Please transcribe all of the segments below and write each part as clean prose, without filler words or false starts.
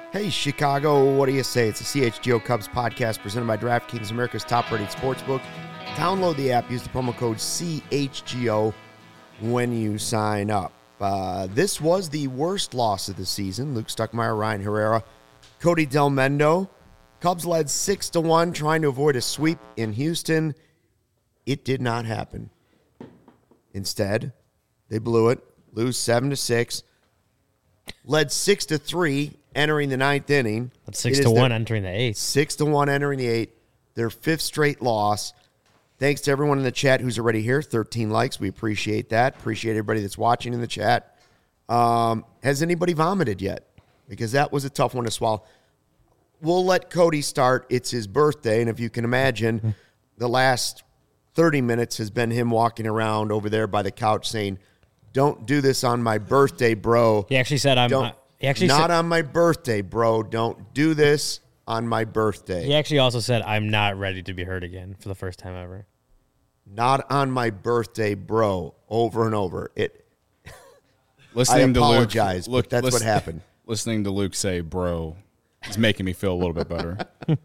Hey, Chicago, what do you say? It's the CHGO Cubs podcast presented by DraftKings, America's top-rated sportsbook. Download the app. Use the promo code CHGO when you sign up. This was the worst loss of the season. Luke Stuckmeyer, Ryan Herrera, Cody Delmendo. Cubs led 6-1, trying to avoid a sweep in Houston. It did not happen. Instead, they blew it, lose 7-6, led 6-3 entering the ninth inning. That's 6-1 entering the eighth. 6-1 entering the eighth. Their fifth straight loss. Thanks to everyone in the chat who's already here. 13 likes. We appreciate that. Appreciate everybody that's watching in the chat. Has anybody vomited yet? Because that was a tough one to swallow. We'll let Cody start. It's his birthday, and if you can imagine, the last 30 minutes has been him walking around over there by the couch saying, "Don't do this on my birthday, bro." He actually said, Not on my birthday, bro. Don't do this on my birthday. He actually also said, "I'm not ready to be hurt again," for the first time ever. Not on my birthday, bro. Over and over. I apologize, to Luke, but that's what happened. Listening to Luke say "bro" is making me feel a little bit better.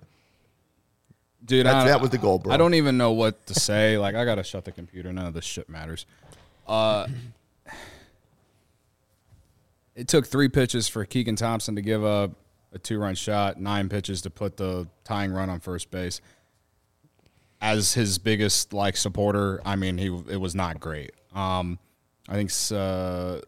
Dude, that was the goal, bro. I don't even know what to say. Like, I got to shut the computer. None of this shit matters. It took 3 pitches for Keegan Thompson to give up a 2-run shot, 9 pitches to put the tying run on first base. As his biggest supporter, I mean, it was not great. I think Sharma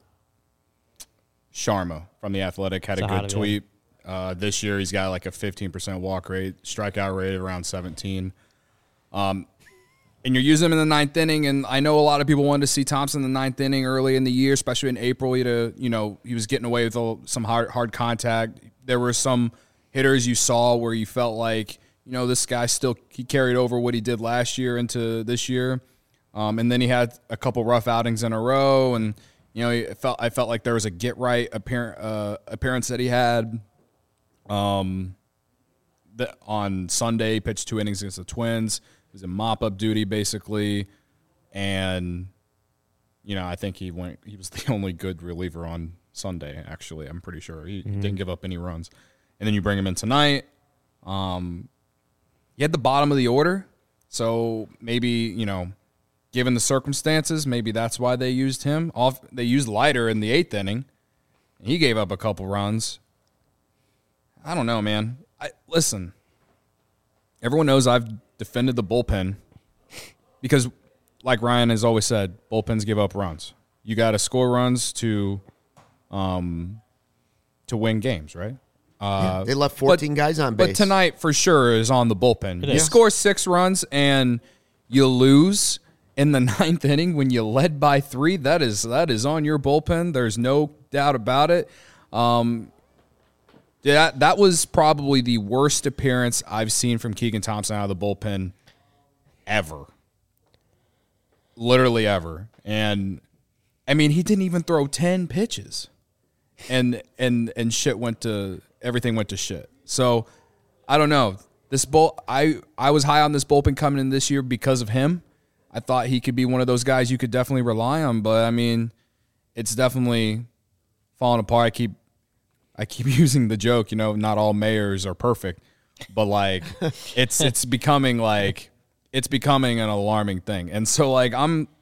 from The Athletic had a good tweet. This year he's got a 15% walk rate, strikeout rate around 17. And you're using him in the ninth inning, and I know a lot of people wanted to see Thompson in the ninth inning early in the year, especially in April. He was getting away with some hard contact. There were some hitters you saw where you felt like, this guy he carried over what he did last year into this year. And then he had a couple rough outings in a row, and I felt like there was a get right appearance that he had. On Sunday, he pitched 2 innings against the Twins. It was a mop-up duty, basically, and I think he was the only good reliever on Sunday. Actually, I'm pretty sure he didn't give up any runs. And then you bring him in tonight. He had the bottom of the order, so maybe given the circumstances, maybe that's why they used him. They used Leiter in the 8th inning. And he gave up a couple runs. I don't know, man. Listen. Everyone knows I've defended the bullpen because, like Ryan has always said, bullpens give up runs. You got to score runs to win games, right? They left 14 guys on base. But tonight, for sure, is on the bullpen. You score 6 runs and you lose in the 9th inning when you led by 3. That is on your bullpen. There's no doubt about it. That was probably the worst appearance I've seen from Keegan Thompson out of the bullpen ever. Literally ever. And, I mean, he didn't even throw 10 pitches. And everything went to shit. So, I don't know. I was high on this bullpen coming in this year because of him. I thought he could be one of those guys you could definitely rely on. But, I mean, it's definitely falling apart. I keep using the joke, not all mayors are perfect, but it's becoming an alarming thing. And so I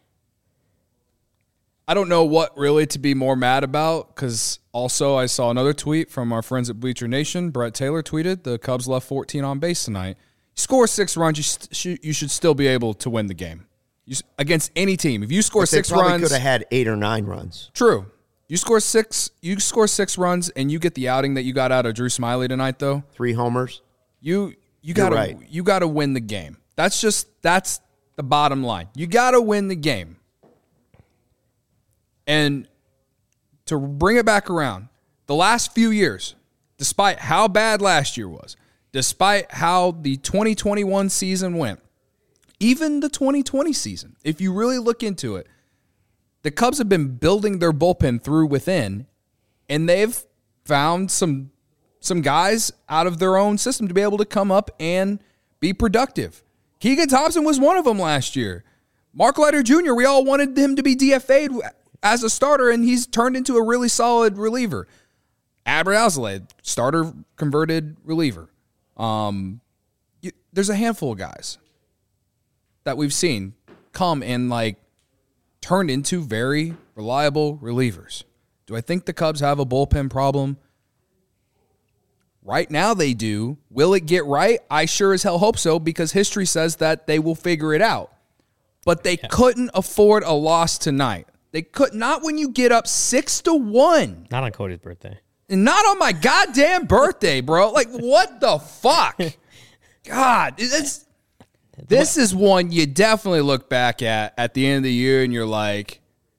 don't know what really to be more mad about, because also I saw another tweet from our friends at Bleacher Nation. Brett Taylor tweeted, the Cubs left 14 on base tonight. You score 6 runs, you should still be able to win the game against any team. If you score 6 runs, they probably could have had 8 or 9 runs. True. You score 6 runs, and you get the outing that you got out of Drew Smyly tonight, though. 3 homers. You gotta win the game. That's the bottom line. You gotta win the game. And to bring it back around, the last few years, despite how bad last year was, despite how the 2021 season went, even the 2020 season, if you really look into it, the Cubs have been building their bullpen through within, and they've found some guys out of their own system to be able to come up and be productive. Keegan Thompson was one of them last year. Mark Leiter Jr., we all wanted him to be DFA'd as a starter, and he's turned into a really solid reliever. Adbert Alzolay, starter converted reliever. There's a handful of guys that we've seen come and like turn into very reliable relievers. Do I think the Cubs have a bullpen problem? Right now they do. Will it get right? I sure as hell hope so, because history says that they will figure it out. But they couldn't afford a loss tonight. They could not when you get up 6-1. Not on Cody's birthday. And not on my goddamn birthday, bro. Like, what the fuck? God, this is one you definitely look back at the end of the year and you're like,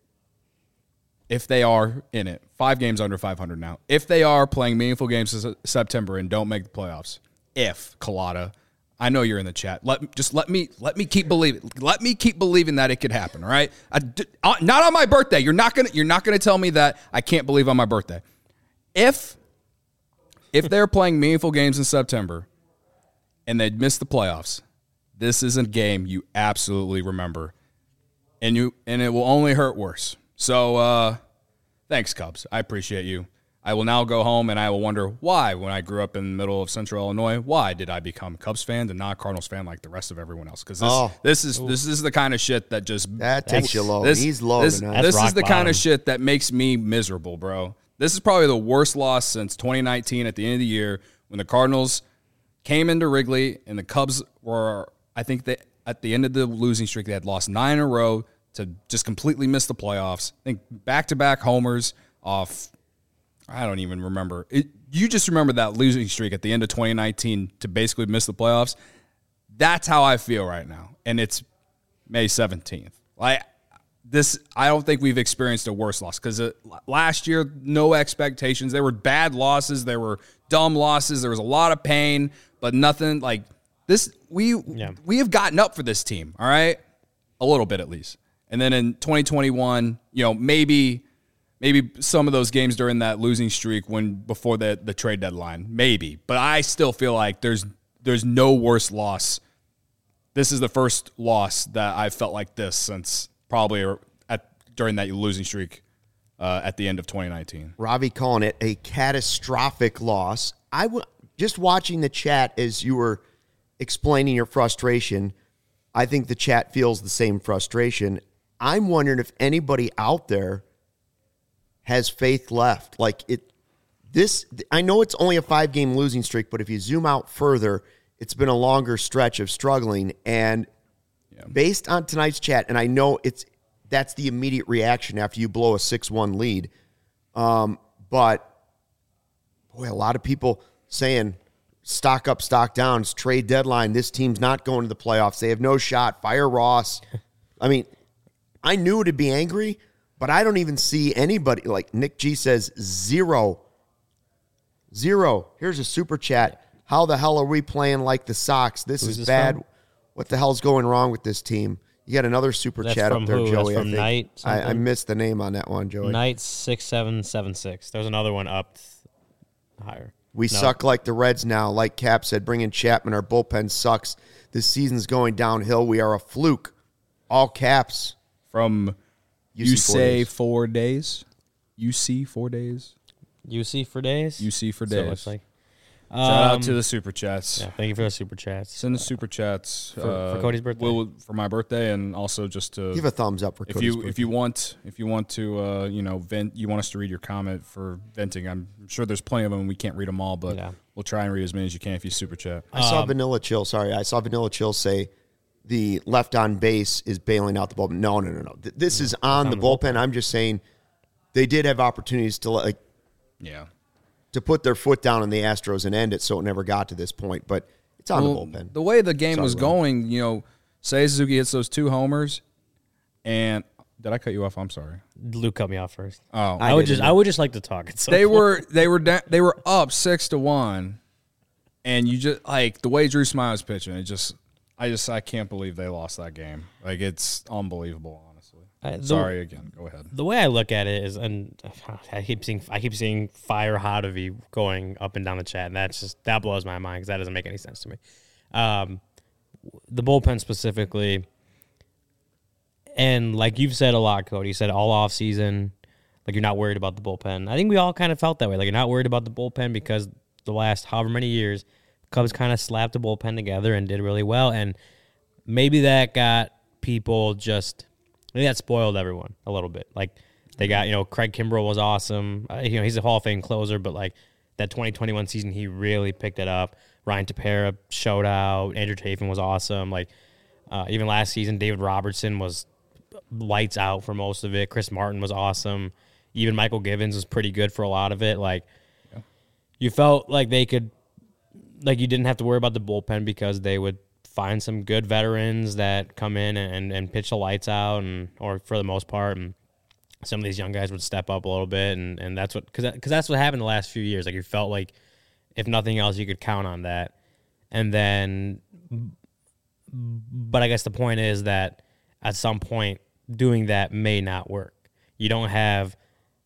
if they are in it, 5 games under 500 now, if they are playing meaningful games in September and don't make the playoffs, if Collada, I know you're in the chat. Let me keep believing. Let me keep believing that it could happen. All right, not on my birthday. You're not gonna tell me that I can't believe on my birthday. If they're playing meaningful games in September and they'd miss the playoffs, this is a game you absolutely remember, and it will only hurt worse. So, thanks, Cubs. I appreciate you. I will now go home and I will wonder why, when I grew up in the middle of Central Illinois, why did I become a Cubs fan and not a Cardinals fan like the rest of everyone else? Because this is the kind of shit that just takes you low. He's low tonight. This is the kind of shit that makes me miserable, bro. This is probably the worst loss since 2019 at the end of the year when the Cardinals came into Wrigley and the Cubs were, I think that at the end of the losing streak, they had lost 9 in a row to just completely miss the playoffs. I think back-to-back homers off, I don't even remember. You just remember that losing streak at the end of 2019 to basically miss the playoffs. That's how I feel right now, and it's May 17th. I don't think we've experienced a worse loss because last year, no expectations. There were bad losses. There were dumb losses. There was a lot of pain, but nothing like this. We have gotten up for this team, all right? A little bit at least. And then in 2021, maybe some of those games during that losing streak before the trade deadline, maybe. But I still feel like there's no worse loss. This is the first loss that I felt like this since probably during that losing streak at the end of 2019. Ravi calling it a catastrophic loss. Just watching the chat as you were explaining your frustration, I think the chat feels the same frustration. I'm wondering if anybody out there has faith left. I know it's only a 5-game losing streak, but if you zoom out further, it's been a longer stretch of struggling. And based on tonight's chat, and I know that's the immediate reaction after you blow a 6-1 lead. But boy, a lot of people saying stock up, stock down. It's trade deadline. This team's not going to the playoffs. They have no shot. Fire Ross. I mean, I knew to be angry, but I don't even see anybody. Like Nick G says, 0. Here's a super chat. How the hell are we playing like the Sox? This is bad. From? What the hell's going wrong with this team? You got another super chat up there, Joey. That's from Knight. I missed the name on that one, Joey. Knight 6776. There's another one up higher. We suck like the Reds now. Like Cap said, bring in Chapman. Our bullpen sucks. This season's going downhill. We are a fluke. All caps. From UC 4 days. UC 4 days. UC for days? UC for days. So it looks like. Shout out to the super chats. Yeah, thank you for the super chats. Send the super chats for Cody's birthday. For my birthday, and also just to give a thumbs up for Cody's birthday. If you want to vent, you want us to read your comment for venting. I'm sure there's plenty of them. We can't read them all, but we'll try and read as many as you can if you super chat. I saw Vanilla Chill say the left on base is bailing out the bullpen. No. This is on the bullpen. I'm just saying they did have opportunities to to put their foot down on the Astros and end it, so it never got to this point. But it's on the bullpen. The way the game was going, Seiya Suzuki hits those 2 homers, and did I cut you off? I'm sorry. Luke cut me off first. Oh, I would just like to talk. They were up 6-1, and you just like the way Drew Smyly was pitching. I can't believe they lost that game. Like, it's unbelievable, honestly. Sorry again. Go ahead. The way I look at it is, and I keep seeing Fire Hotovy going up and down the chat, and that blows my mind because that doesn't make any sense to me. The bullpen specifically, and like you've said a lot, Cody, you said all off season, like you're not worried about the bullpen. I think we all kind of felt that way. Like you're not worried about the bullpen because the last however many years, Cubs kind of slapped the bullpen together and did really well. And maybe that got people maybe that spoiled everyone a little bit. Like they got, Craig Kimbrell was awesome. He's a Hall of Fame closer, but like that 2021 season, he really picked it up. Ryan Tepera showed out. Andrew Chafin was awesome. Like even last season, David Robertson was lights out for most of it. Chris Martin was awesome. Even Michael Givens was pretty good for a lot of it. Like you felt like they could, like you didn't have to worry about the bullpen because they would find some good veterans that come in and pitch the lights out, or for the most part, and some of these young guys would step up a little bit, and that's what because that's what happened the last few years. Like you felt like if nothing else, you could count on that, and then, but I guess the point is that at some point doing that may not work. If you don't have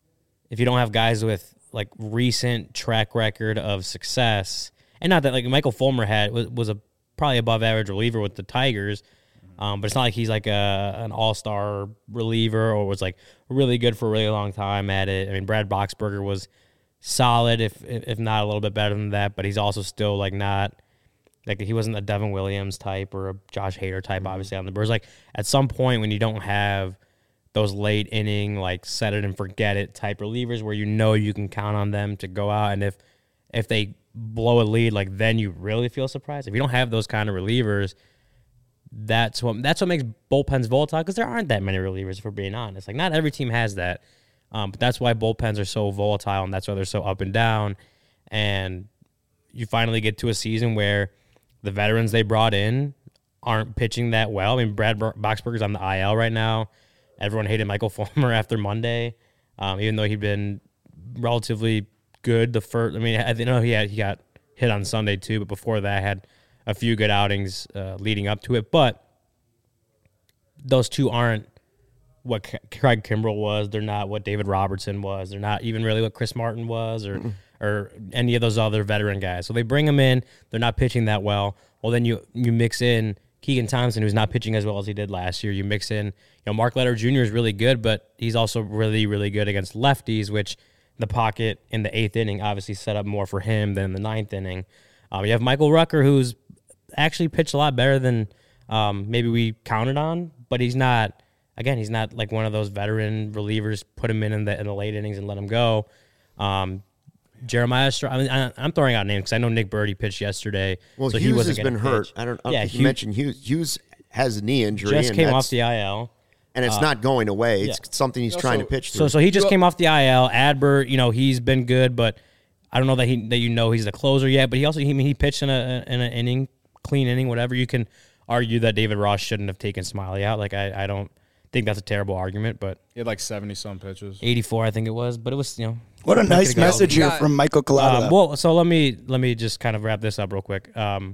guys with like recent track record of success, and not that like Michael Fulmer was a probably above average reliever with the Tigers. But it's not like he's like an all-star reliever or was like really good for a really long time at it. I mean, Brad Boxberger was solid, if not a little bit better than that, but he's also still like not like he wasn't a Devin Williams type or a Josh Hader type, obviously on the Brewers. Like at some point when you don't have those late inning like set it and forget it type relievers where you can count on them to go out, and if they blow a lead, like then you really feel surprised. If you don't have those kind of relievers, that's what makes bullpens volatile, because there aren't that many relievers, if we're being honest. Like not every team has that, but that's why bullpens are so volatile, and that's why they're so up and down. And you finally get to a season where the veterans they brought in aren't pitching that well. I mean, Brad Boxberger's on the IL right now. Everyone hated Michael Fulmer after Monday, even though he'd been relatively good the first. I mean, I know he got hit on Sunday too, but before that had a few good outings leading up to it. But those two aren't what Craig Kimbrell was. They're not what David Robertson was. They're not even really what Chris Martin was or any of those other veteran guys. So they bring them in. They're not pitching that well. Well, then you mix in Keegan Thompson, who's not pitching as well as he did last year. You mix in, Mark Leiter Jr. is really good, but he's also really, really good against lefties, which the pocket in the 8th inning obviously set up more for him than the 9th inning. You have Michael Rucker, who's actually pitched a lot better than maybe we counted on, but he's not like one of those veteran relievers. Put him in the late innings and let him go. Jeremiah Straw. I mean, I'm throwing out names because I know Nick Birdie pitched yesterday. Well, so Hughes has been hurt. I don't think you mentioned Hughes. Hughes has a knee injury. Just came off the IL. And it's not going away. It's something he's trying to pitch through. So he just came off the IL. Adbert, he's been good, but I don't know that he's the closer yet. But he pitched in an inning, clean inning, whatever. You can argue that David Ross shouldn't have taken Smiley out. Like I don't think that's a terrible argument, but he had like 70-some pitches, 84, I think it was. But it was What a nice message here from Michael Collado. Well, so let me just kind of wrap this up real quick.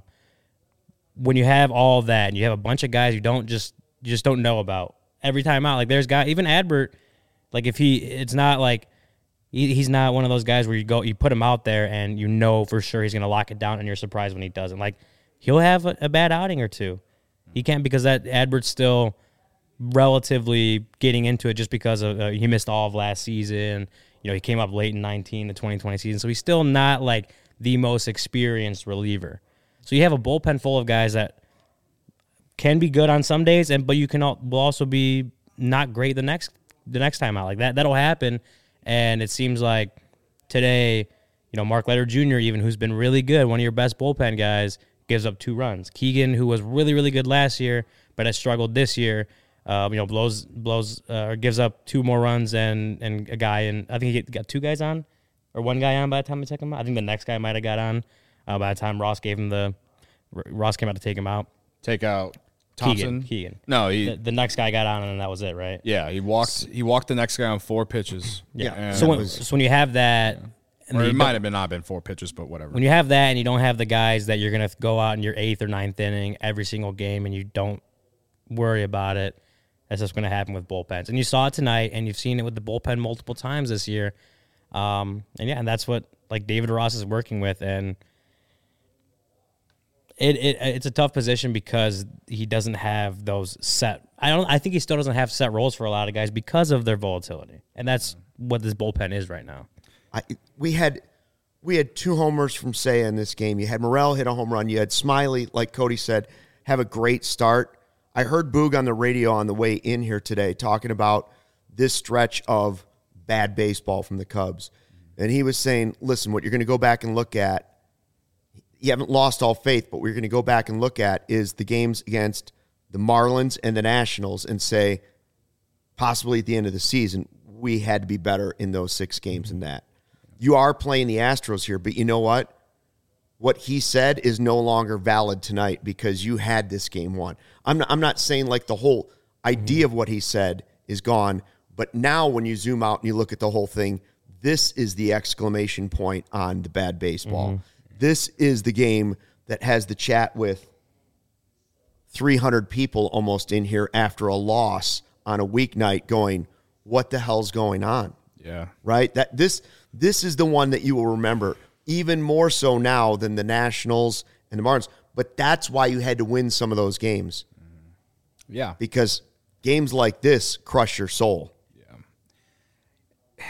When you have all that and you have a bunch of guys you just don't know about every time out, like there's guys, even Adbert, like it's not like he's not one of those guys where you put him out there and for sure he's going to lock it down and you're surprised when he doesn't. Like he'll have a bad outing or two. He can't, because that Adbert's still relatively getting into it just because of he missed all of last season. He came up late in 19, the 2020 season, so he's still not like the most experienced reliever. So you have a bullpen full of guys that can be good on some days, but will also be not great the next time out. Like that'll happen, and it seems like today, Mark Leiter Jr., even who's been really good, one of your best bullpen guys, gives up 2 runs. Keegan, who was really, really good last year but has struggled this year, gives up 2 more runs and a guy, and I think he got 2 guys on, or 1 guy on by the time we took him out. I think the next guy might have got on by the time Ross came out to take him out. Take out Thompson. Keegan. No, the next guy got on, and that was it, right? Yeah, he walked the next guy on 4 pitches. Yeah. So when you have that, or it might have not been 4 pitches, but whatever. When you have that and you don't have the guys that you're gonna go out in your 8th or 9th inning every single game, and you don't worry about it, that's just going to happen with bullpens. And you saw it tonight, and you've seen it with the bullpen multiple times this year. And that's what like David Ross is working with, and it's a tough position because he doesn't have those set I think he still doesn't have set roles for a lot of guys because of their volatility, and that's what this bullpen is right now. We had 2 homers from Seiya in this game. You had Morel hit a home run. You had Smiley, like Cody said, have a great start. I heard Boog on the radio on the way in here today talking about this stretch of bad baseball from the Cubs. And he was saying, listen, what you're going to go back and look at, you haven't lost all faith, but what you're going to go back and look at is the games against the Marlins and the Nationals and say, possibly at the end of the season, we had to be better in those 6 games than that. You are playing the Astros here, but you know what? What he said is no longer valid tonight because you had this game won. I'm not saying like the whole idea of what he said is gone, but now when you zoom out and you look at the whole thing, this is the exclamation point on the bad baseball. Mm-hmm. This is the game that has the chat with 300 people almost in here after a loss on a weeknight going, what the hell's going on? Yeah. Right? This is the one that you will remember even more so now than the Nationals and the Marlins. But that's why you had to win some of those games. Yeah. Because games like this crush your soul. Yeah.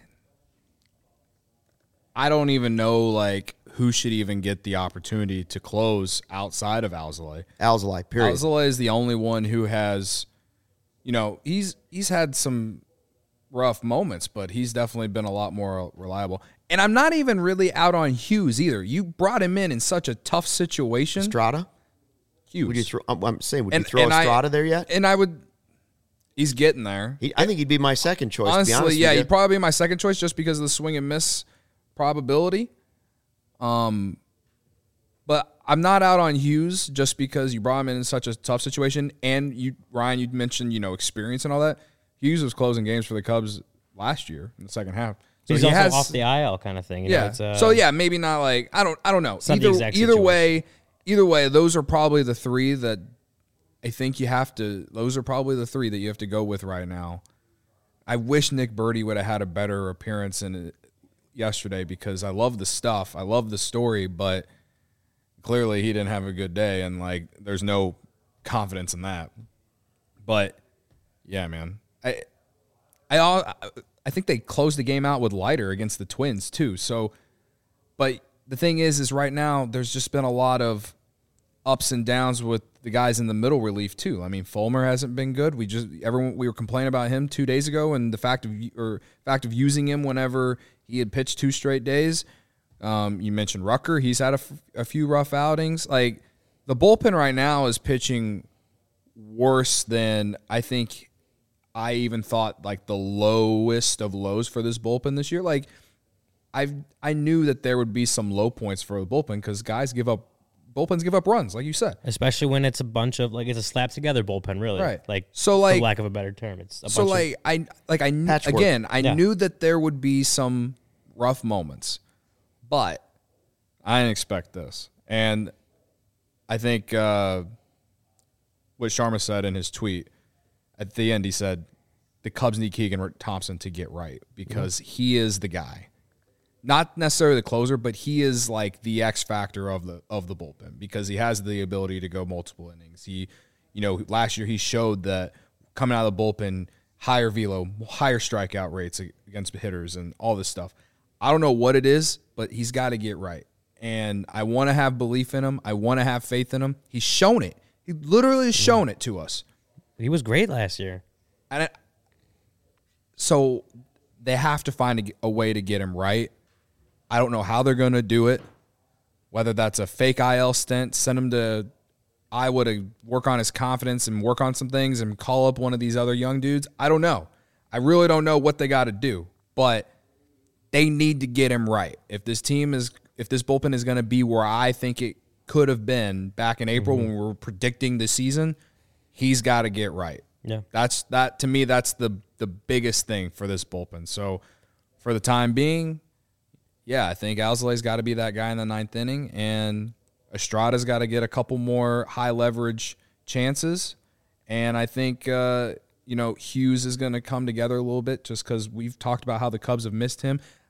I don't even know, like, who should even get the opportunity to close outside of Alzolay. Alzolay, period. Alzolay is the only one who has, he's had some rough moments, but he's definitely been a lot more reliable. And I'm not even really out on Hughes either. You brought him in such a tough situation. Estrada? Hughes. Would you throw, I'm saying, would you throw Estrada there yet? And I would. He's getting there. I think he'd be my second choice, honestly, to be honest yeah, with you. He'd probably be my second choice just because of the swing and miss probability. But I'm not out on Hughes just because you brought him in such a tough situation. And Ryan, you mentioned, experience and all that. Hughes was closing games for the Cubs last year in the second half. So he's also off the IL kind of thing. So yeah, maybe not like I don't know. Either way, those are probably the 3 that I think you have to. Those are probably the 3 that you have to go with right now. I wish Nick Birdie would have had a better appearance in it yesterday because I love the stuff, I love the story, but clearly he didn't have a good day, and like there's no confidence in that. But yeah, man, I think they closed the game out with Leiter against the Twins too. So, but the thing is right now there's just been a lot of ups and downs with the guys in the middle relief too. I mean, Fulmer hasn't been good. We were complaining about him 2 days ago, and the fact of using him whenever he had pitched 2 straight days. You mentioned Rucker; he's had a few rough outings. Like the bullpen right now is pitching worse than I think I even thought. Like the lowest of lows for this bullpen this year. Like I knew that there would be some low points for the bullpen because bullpens give up runs, like you said. Especially when it's a bunch of it's a slap together bullpen, really. Right. For lack of a better term, it's a bunch of I knew that there would be some rough moments, but I didn't expect this. And I think what Sharma said in his tweet at the end, he said the Cubs need Keegan Thompson to get right because he is the guy. Not necessarily the closer, but he is like the X factor of the bullpen because he has the ability to go multiple innings. He, last year he showed that coming out of the bullpen, higher velo, higher strikeout rates against hitters and all this stuff. I don't know what it is, but he's got to get right. And I want to have belief in him. I want to have faith in him. He's shown it. He literally has shown it to us. He was great last year. So they have to find a way to get him right. I don't know how they're going to do it, whether that's a fake IL stint, send him to Iowa to work on his confidence and work on some things and call up one of these other young dudes. I don't know. I really don't know what they got to do, but they need to get him right. If this bullpen is going to be where I think it could have been back in April when we were predicting the season, he's got to get right. Yeah. To me, that's the biggest thing for this bullpen. So for the time being, yeah, I think Alzolay's got to be that guy in the 9th inning, and Estrada's got to get a couple more high-leverage chances. And I think, Hughes is going to come together a little bit just because we've talked about how the Cubs have missed him.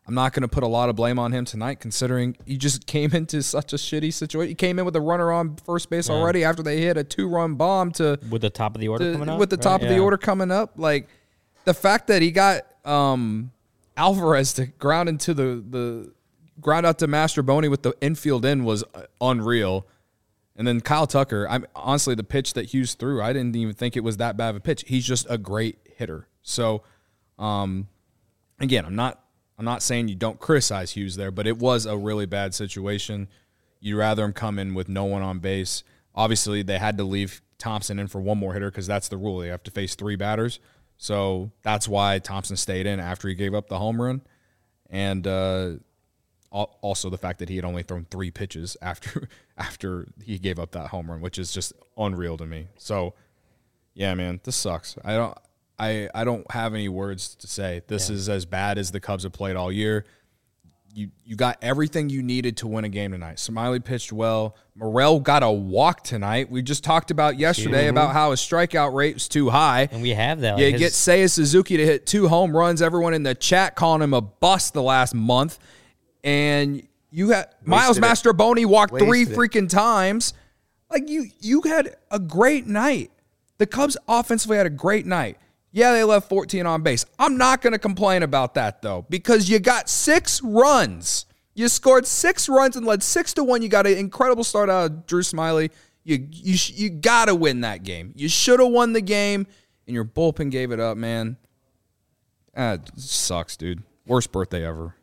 I'm not going to put a lot of blame on him tonight, considering he just came into such a shitty situation. He came in with a runner on first base already after they hit a 2-run bomb with the top of the order coming up. With the top of the order coming up, like the fact that he got Alvarez to ground into the ground out to Mastrobuoni with the infield in was unreal. And then Kyle Tucker, honestly, the pitch that Hughes threw, I didn't even think it was that bad of a pitch. He's just a great hitter. So, again, I'm not saying you don't criticize Hughes there, but it was a really bad situation. You'd rather him come in with no one on base. Obviously, they had to leave Thompson in for one more hitter because that's the rule. They have to face 3 batters. So that's why Thompson stayed in after he gave up the home run. And also the fact that he had only thrown 3 pitches after he gave up that home run, which is just unreal to me. So, yeah, man, this sucks. I don't have any words to say. This is as bad as the Cubs have played all year. You got everything you needed to win a game tonight. Smiley pitched well. Morel got a walk tonight. We just talked about yesterday about how his strikeout rate was too high. And we have that. Like get Seiya Suzuki to hit 2 home runs. Everyone in the chat calling him a bust the last month. And you had Miles Mastrobuoni walked 3 freaking times. Like you had a great night. The Cubs offensively had a great night. Yeah, they left 14 on base. I'm not going to complain about that, though, because you got 6 runs. You scored 6 runs and led 6-1. You got an incredible start out of Drew Smiley. You got to win that game. You should have won the game, and your bullpen gave it up, man. It sucks, dude. Worst birthday ever.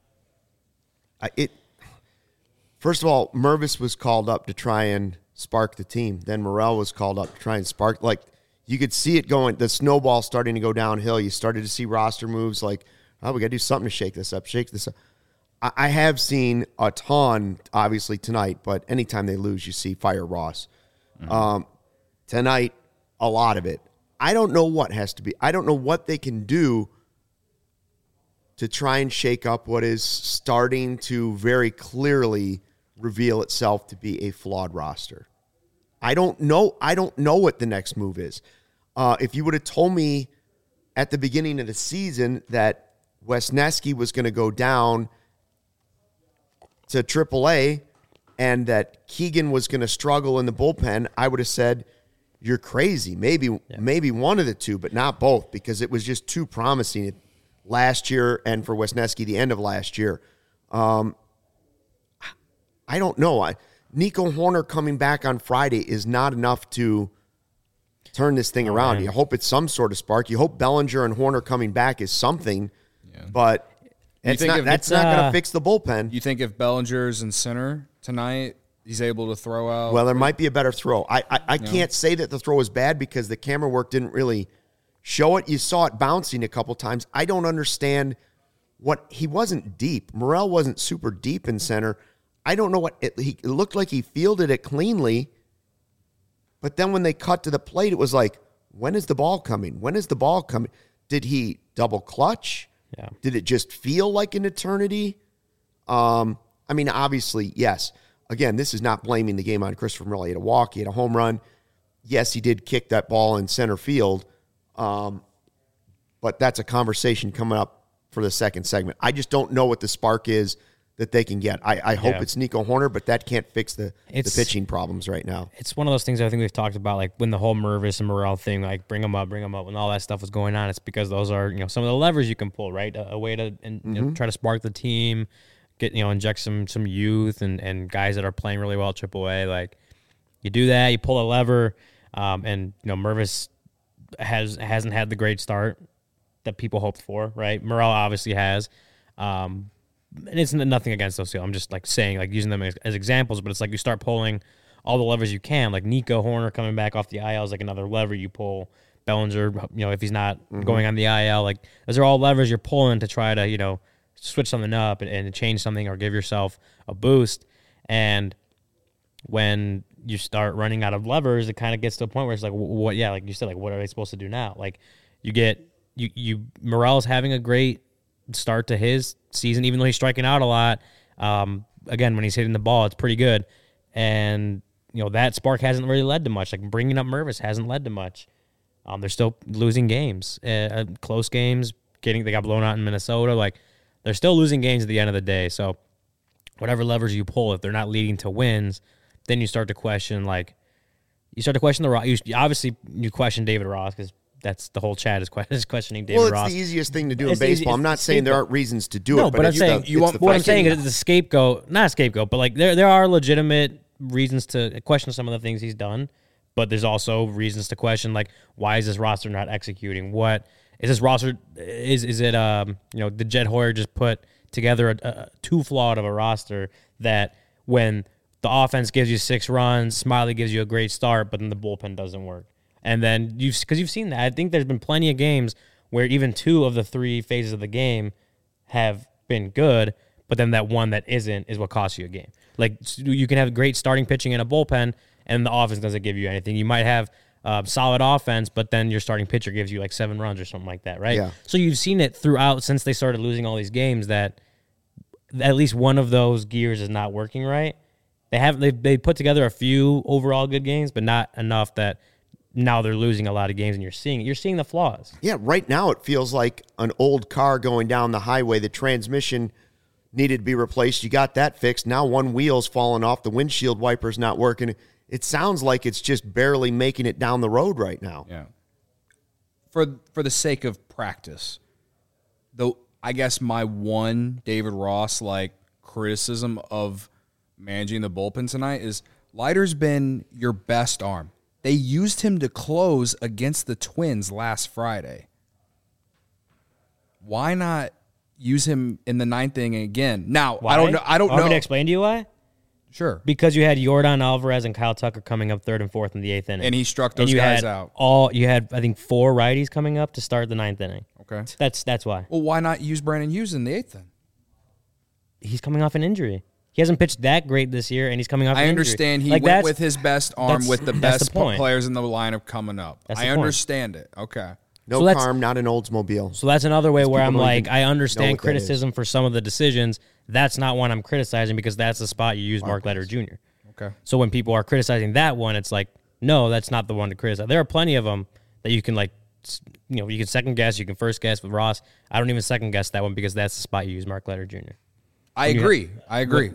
First of all, Mervis was called up to try and spark the team. Then Morel was called up to try and spark. Like, you could see it going, the snowball starting to go downhill. You started to see roster moves like, oh, we got to do something to shake this up. I have seen a ton, obviously, tonight, but anytime they lose, you see fire Ross. Mm-hmm. Tonight, a lot of it. I don't know what has to be. I don't know what they can do to try and shake up what is starting to very clearly reveal itself to be a flawed roster. I don't know what the next move is. If you would have told me at the beginning of the season that Wesneski was going to go down to AAA and that Keegan was going to struggle in the bullpen, I would have said, you're crazy. Maybe one of the two, but not both, because it was just too promising last year and for Wesneski the end of last year. I don't know. Nico Horner coming back on Friday is not enough to turn this thing around. You hope it's some sort of spark. You hope Bellinger and Horner coming back is something, but that's not going to fix the bullpen. You think if Bellinger's in center tonight, he's able to throw out? Well, there might be a better throw. I can't say that the throw was bad because the camera work didn't really show it. You saw it bouncing a couple times. I don't understand he wasn't deep. Morel wasn't super deep in center. I don't know what it looked like. He fielded it cleanly, but then when they cut to the plate, it was like, when is the ball coming? When is the ball coming? Did he double clutch? Yeah. Did it just feel like an eternity? I mean, obviously, yes. Again, this is not blaming the game on Christopher Morel. He had a walk. He had a home run. Yes, he did kick that ball in center field, but that's a conversation coming up for the second segment. I just don't know what the spark is that they can get. I hope it's Nico Horner, but that can't fix the pitching problems right now. It's one of those things I think we've talked about, like when the whole Mervis and Morel thing, like bring them up, when all that stuff was going on. It's because those are some of the levers you can pull, right? A way to try to spark the team, get inject some youth and guys that are playing really well at AAA. Like you do that, you pull a lever, and Mervis hasn't had the great start that people hoped for, right? Morel obviously has. And it's nothing against those two. I'm just like saying, like using them as examples, but it's like you start pulling all the levers you can. Like Nico Horner coming back off the IL is like another lever you pull. Bellinger, if he's not going on the IL, like those are all levers you're pulling to try to, switch something up and change something or give yourself a boost. And when you start running out of levers, it kind of gets to a point where it's like, what? Yeah, like you said, like what are they supposed to do now? Like Morel's having a great start to his season, even though he's striking out a lot. Again, when he's hitting the ball, it's pretty good. And, that spark hasn't really led to much. Like bringing up Mervis hasn't led to much. They're still losing games, close games. They got blown out in Minnesota. Like they're still losing games at the end of the day. So whatever levers you pull, if they're not leading to wins, then you start to question, like, the Ross. Obviously, you question David Ross because that's the whole chat is questioning David Ross. Well, it's the easiest thing to do in baseball. I'm not saying there aren't reasons to do it, but I'm saying what I'm saying is the scapegoat, not a scapegoat, but like there are legitimate reasons to question some of the things he's done, but there's also reasons to question, like, why is this roster not executing? What is this roster? Is it did Jed Hoyer just put together a too flawed of a roster that when the offense gives you 6 runs, Smiley gives you a great start, but then the bullpen doesn't work? And then because you've seen that. I think there's been plenty of games where even 2 of the 3 phases of the game have been good, but then that one that isn't is what costs you a game. Like, you can have great starting pitching in a bullpen, and the offense doesn't give you anything. You might have solid offense, but then your starting pitcher gives you like 7 runs or something like that, right? Yeah. So you've seen it throughout since they started losing all these games that at least one of those gears is not working right. They put together a few overall good games, but not enough that now they're losing a lot of games, and you're seeing the flaws. Yeah, right now it feels like an old car going down the highway. The transmission needed to be replaced. You got that fixed. Now one wheel's falling off. The windshield wiper's not working. It sounds like it's just barely making it down the road right now. Yeah. For the sake of practice, though, I guess my one David Ross criticism of managing the bullpen tonight is Leiter's been your best arm. They used him to close against the Twins last Friday. Why not use him in the 9th inning again? Now, why? I don't know. Want me to explain to you why? Sure. Because you had Yordan Alvarez and Kyle Tucker coming up 3rd and 4th in the 8th inning. And he struck those guys out. You had, I think, 4 righties coming up to start the 9th inning. Okay. That's why. Well, why not use Brandon Hughes in the 8th then? He's coming off an injury. He hasn't pitched that great this year, and he's coming off an injury. I understand he went with his best arm with the best players in the lineup coming up. I understand it. Okay. No Carm, not an Oldsmobile. So that's another way where I'm like, I understand criticism for some of the decisions. That's not one I'm criticizing because that's the spot you use Mark Leiter Jr. Okay. So when people are criticizing that one, it's like, no, that's not the one to criticize. There are plenty of them that you can you can second guess, you can first guess with Ross. I don't even second guess that one because that's the spot you use Mark Leiter Jr. I agree. All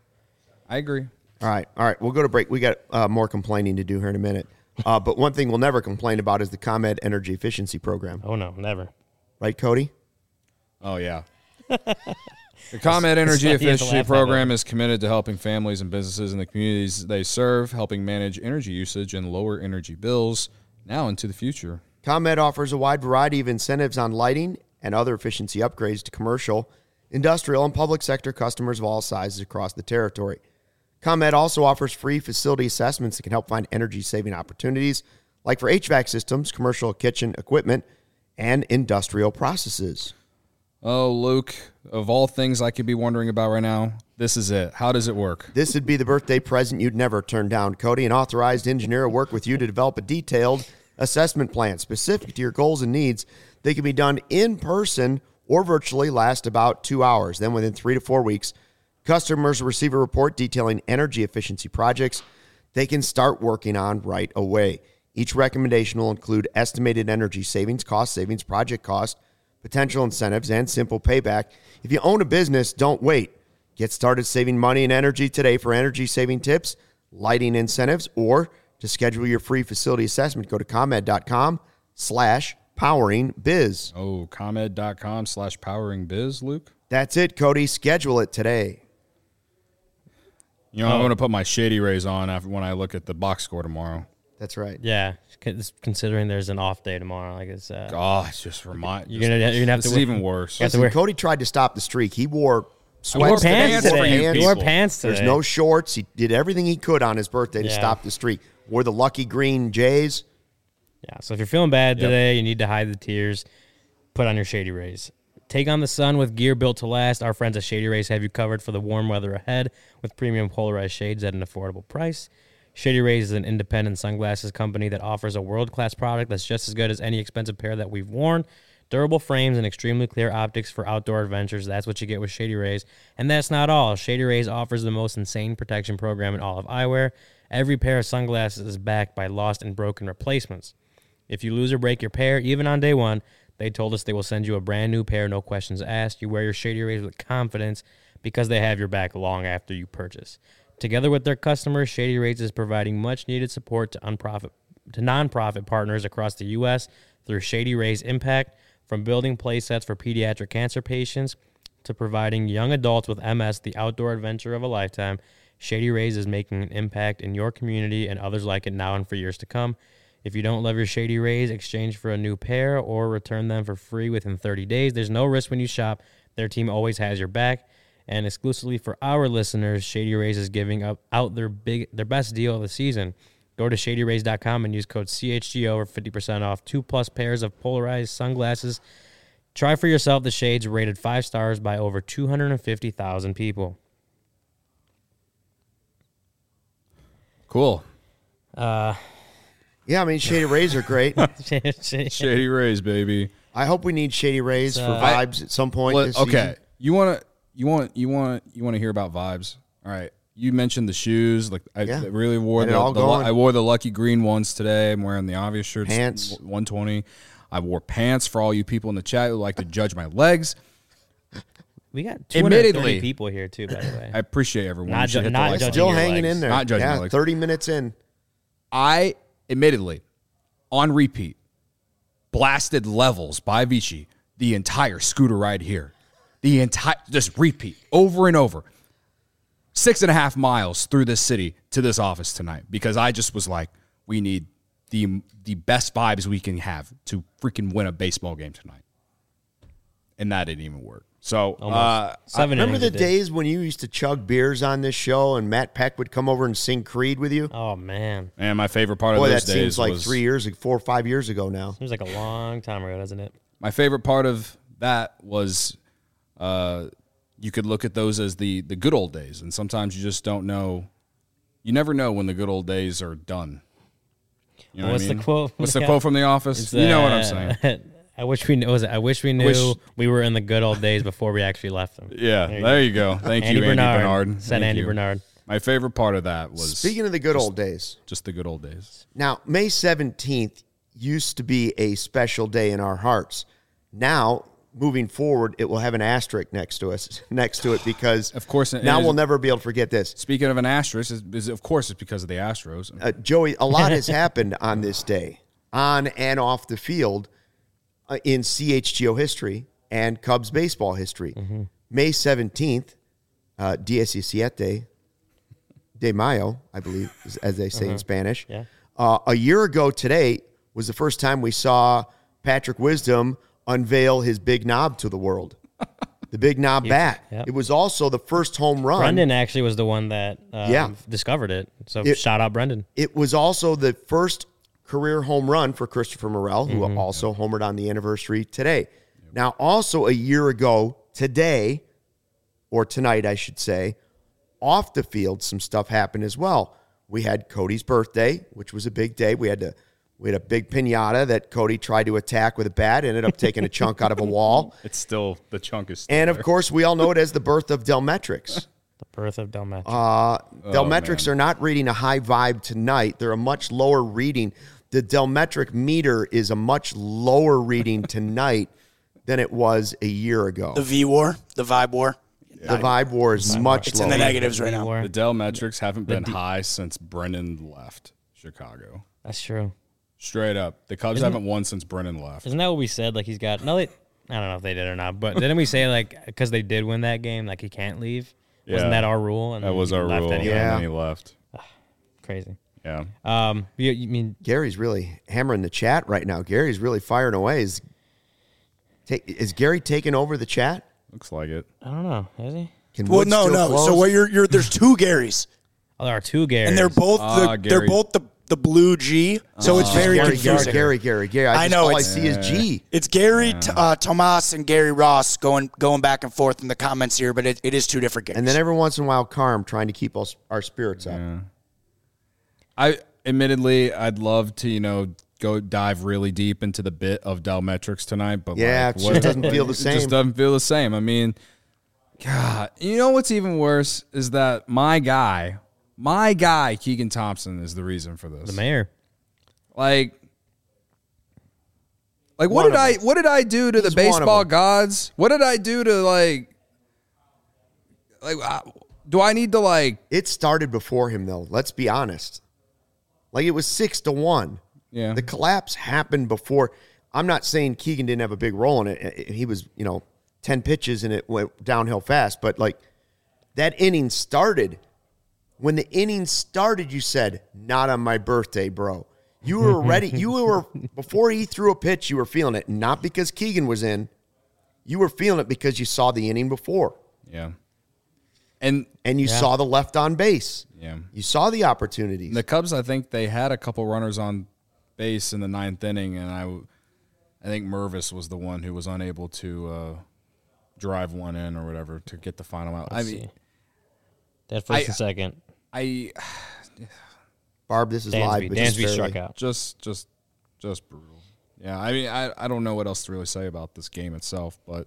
right. We'll go to break. We got more complaining to do here in a minute. But one thing we'll never complain about is the ComEd Energy Efficiency Program. Oh, no, never. Right, Cody? Oh, yeah. The ComEd Energy Efficiency Program is committed to helping families and businesses in the communities they serve, helping manage energy usage and lower energy bills now into the future. ComEd offers a wide variety of incentives on lighting and other efficiency upgrades to commercial, industrial, and public sector customers of all sizes across the territory. ComEd also offers free facility assessments that can help find energy-saving opportunities, like for HVAC systems, commercial kitchen equipment, and industrial processes. Oh, Luke, of all things I could be wondering about right now, this is it. How does it work? This would be the birthday present you'd never turn down, Cody. An authorized engineer will work with you to develop a detailed assessment plan specific to your goals and needs. They can be done in person or virtually, last about 2 hours. Then within 3 to 4 weeks, customers will receive a report detailing energy efficiency projects they can start working on right away. Each recommendation will include estimated energy savings, cost savings, project cost, potential incentives, and simple payback. If you own a business, don't wait. Get started saving money and energy today. For energy saving tips, lighting incentives, or to schedule your free facility assessment, go to ComEd.com/poweringbiz. Oh, ComEd.com/poweringbiz, Luke? That's it, Cody. Schedule it today. You know, I'm going to put my Shady Rays on when I look at the box score tomorrow. That's right. Yeah, considering there's an off day tomorrow, I guess. It's just you're gonna have to. It's even worse. Listen, Cody tried to stop the streak. He wore sweats today. He wore pants today. There's no shorts. He did everything he could on his birthday to stop the streak. Wore the lucky green Jays. Yeah, so if you're feeling bad today, you need to hide the tears, put on your Shady Rays. Take on the sun with gear built to last. Our friends at Shady Rays have you covered for the warm weather ahead with premium polarized shades at an affordable price. Shady Rays is an independent sunglasses company that offers a world-class product that's just as good as any expensive pair that we've worn. Durable frames and extremely clear optics for outdoor adventures. That's what you get with Shady Rays. And that's not all. Shady Rays offers the most insane protection program in all of eyewear. Every pair of sunglasses is backed by lost and broken replacements. If you lose or break your pair, even on day one, They told us they will send you a brand new pair, no questions asked. You wear your Shady Rays with confidence because they have your back long after you purchase. Together with their customers, Shady Rays is providing much-needed support to nonprofit partners across the U.S. through Shady Rays Impact, from building play sets for pediatric cancer patients to providing young adults with MS the outdoor adventure of a lifetime. Shady Rays is making an impact in your community and others like it now and for years to come. If you don't love your Shady Rays, exchange for a new pair or return them for free within 30 days. There's no risk when you shop. Their team always has your back. And exclusively for our listeners, Shady Rays is giving out their best deal of the season. Go to ShadyRays.com and use code CHGO for 50% off 2+ pairs of polarized sunglasses. Try for yourself the shades rated 5 stars by over 250,000 people. Cool. Yeah, I mean, Shady Rays are great. Shady Rays, baby. I hope we need Shady Rays for vibes at some point this season. Okay, you want to hear about vibes? All right. You mentioned the shoes. Like I really wore I wore the lucky green ones today. I'm wearing the obvious shirts. Pants. 120. I wore pants for all you people in the chat who like to judge my legs. We got 230 people here too, by the way. I appreciate everyone. Not judging still your hanging legs. in there. Not judging my legs. 30 minutes in. I admittedly, on repeat, blasted Levels by Avicii the entire scooter ride here. Just repeat over and over. 6.5 miles through this city to this office tonight because I just was like, we need the best vibes we can have to freaking win a baseball game tonight. And that didn't even work. So, remember the days when you used to chug beers on this show and Matt Peck would come over and sing Creed with you? Oh, man. And my favorite part of those days that seems like 4 or 5 years ago now. Seems like a long time ago, doesn't it? My favorite part of that was you could look at those as the good old days. And sometimes you just don't know. You never know when the good old days are done. You know What's the quote? What's the quote from The Office? You know what I'm saying. I wish we knew we were in the good old days before we actually left them. Yeah, there you go. Thank you, Andy Bernard. Said Andy Bernard. My favorite part of that was... Speaking of the good old days. Just the good old days. Now, May 17th used to be a special day in our hearts. Now, moving forward, it will have an asterisk next to it because of course, now we'll never be able to forget this. Speaking of an asterisk, of course it's because of the Astros. Joey, a lot has happened on this day, on and off the field, in CHGO history and Cubs baseball history. Mm-hmm. May 17th, 17 de Mayo, I believe, as they say in Spanish. Yeah. A year ago today was the first time we saw Patrick Wisdom unveil his big knob to the world. The big knob bat. Yep. It was also the first home run. Brendan actually was the one that discovered it. So shout out Brendan. It was also the first career home run for Christopher Morel, who also homered on the anniversary today. Yep. Now, also a year ago today, or tonight, I should say, off the field, some stuff happened as well. We had Cody's birthday, which was a big day. We had a big piñata that Cody tried to attack with a bat, ended up taking a chunk out of a wall. The chunk is still And, there. of course, we all know it as the birth of Delmetrics. The birth of Delmetrics. Delmetrics are not reading a high vibe tonight. They're a much lower reading. The Delmetric meter is a much lower reading tonight than it was a year ago. The V war, the vibe war. The vibe war is much It's lower. in the negatives right now. The Delmetrics haven't been high since Brennan left Chicago. That's true. Straight up. The Cubs haven't won since Brennan left. Isn't that what we said? Like, he's got... No, I don't know if they did or not, but didn't we say, like, because they did win that game, like, he can't leave? Yeah. Wasn't that our rule? And that was our rule. Anyway? Yeah. And then he left. Crazy. Yeah. You mean... Gary's really hammering the chat right now. Gary's really firing away. Is Gary taking over the chat? Looks like it. I don't know. Is he? Well, no. Close? So what there's two Garys. Oh, there are two Garys. And they're both the blue G. So it's very confusing. Gary. I know. All I see is G. It's Gary Tomas and Gary Ross going back and forth in the comments here, but it is two different Garys. And then every once in a while, Carm trying to keep our spirits up. I'd love to, go dive really deep into the bit of Delmetrics tonight, but it just doesn't feel the same. It just doesn't feel the same. I mean, God, you know what's even worse is that my guy, Keegan Thompson, is the reason for this. The mayor. Like Like, One of us. what did I do to the He's one of baseball them. gods? What did I do to do I need to It started before him, though. Let's be honest. Like, it was 6-1. Yeah. The collapse happened before. I'm not saying Keegan didn't have a big role in it. He was, 10 pitches and it went downhill fast. But, like, that inning started. When the inning started, you said, not on my birthday, bro. You were ready. Before he threw a pitch, you were feeling it. Not because Keegan was in. You were feeling it because you saw the inning before. Yeah. And you saw the left on base. Yeah. You saw the opportunities. The Cubs, I think they had a couple runners on base in the 9th inning, and I think Mervis was the one who was unable to drive one in or whatever to get the final out. That first and second. Barb, this is live. But Dansby struck out. Just brutal. Yeah, I mean, I don't know what else to really say about this game itself, but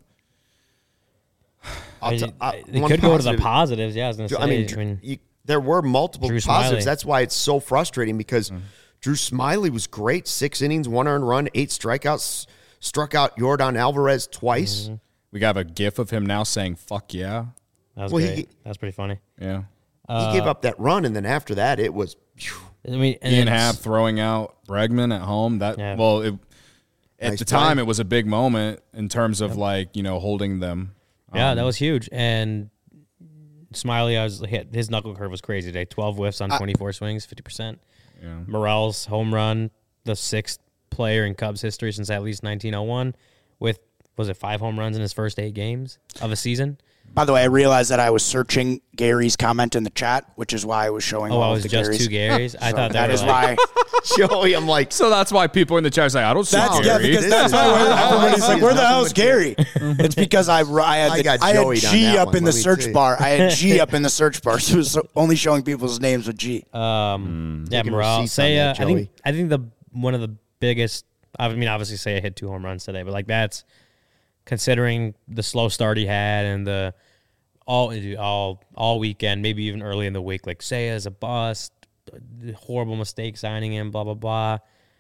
They one could go to the positive- positives. Yeah, I was going to say. There were multiple Drew positives. Smyly. That's why it's so frustrating because Drew Smyly was great. 6 innings, 1 earned run, 8 strikeouts. Struck out Yordan Alvarez twice. we got a gif of him now saying "fuck yeah." That was Well, great. That was pretty funny. Yeah. He gave up that run, and then after that, it was. I mean, and Ian it's- Happ throwing out Bregman at home. At Nice the time, play. it was a big moment in terms of holding them. Yeah, that was huge. And Smiley, his knuckle curve was crazy today. 12 whiffs on 24 swings, 50%. Yeah. Morel's home run, the 6th player in Cubs history since at least 1901, with, was it 5 home runs in his first 8 games of a season? By the way, I realized that I was searching Gary's comment in the chat, which is why I was showing Oh, all I of was the just Garys. 2 Garys. I So thought that were is like, why. Joey, I'm like, So that's why people in the chat say, "I don't see That's Gary." because This that's is- why everybody's like, "Where the Nothing hell's with Gary?" It's because I had got I Joey'd had on G that up one, in the let me search tell you. bar. I had G up in the search bar, so it was only showing people's names with G. yeah, Taking Morel. receipts on Seiya, that, Joey. I think the one of the biggest. I mean, obviously, Seiya hit 2 home runs today, but like that's considering the slow start he had and the all weekend, maybe even early in the week. Like Seiya is a bust, horrible mistake signing him, blah blah blah.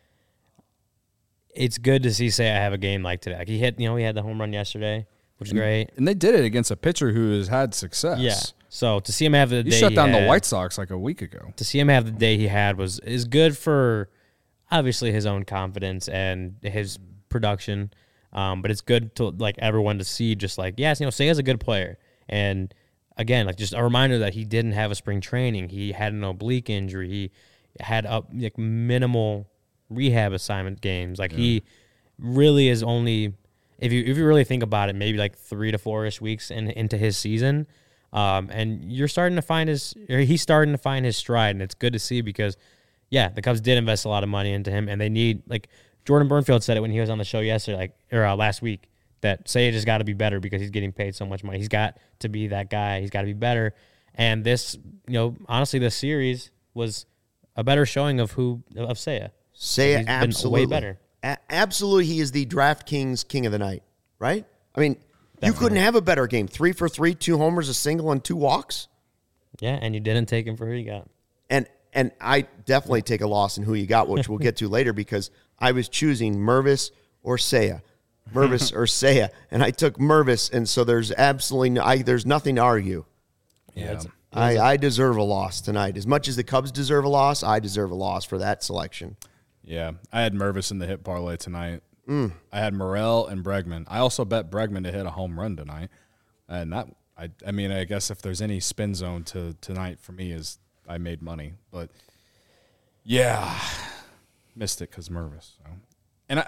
It's good to see Seiya have a game like today. Like he hit, he had the home run yesterday, which is great. And they did it against a pitcher who has had success. Yeah. So to see him have the He day shut he down the had- White Sox like a week ago. to see him have the day he had is good for obviously his own confidence and his production. But it's good to like everyone to see just like, yes, Seiya's a good player. And again, like just a reminder that he didn't have a spring training. He had an oblique injury. He had minimal rehab assignment games. Like he really is only, if you really think about it, maybe like 3 to 4-ish weeks into his season. And he's starting to find his stride, and it's good to see because, yeah, the Cubs did invest a lot of money into him, and they need, like Jordan Burnfield said it when he was on the show yesterday, last week, that Seiya just got to be better because he's getting paid so much money. He's got to be that guy. He's got to be better. And this, honestly, this series was a better showing of Seiya. Seiya He's been absolutely way better. Absolutely, he is the DraftKings king of the night, right? I mean, you couldn't have a better game. 3 for 3, 2 homers, a single, and 2 walks. Yeah, and you didn't take him for who you got. And I definitely take a loss in who you got, which we'll get to later because I was choosing Mervis or Seiya. Mervis or Seiya. And I took Mervis, and so there's absolutely there's nothing to argue. Yeah. I deserve a loss tonight. As much as the Cubs deserve a loss, I deserve a loss for that selection. Yeah. I had Mervis in the hit parlay tonight. I had Morel and Bregman. I also bet Bregman to hit a home run tonight. And that, I mean, I guess if there's any spin zone to tonight for me is I made money. But, yeah, missed it because Mervis. So. And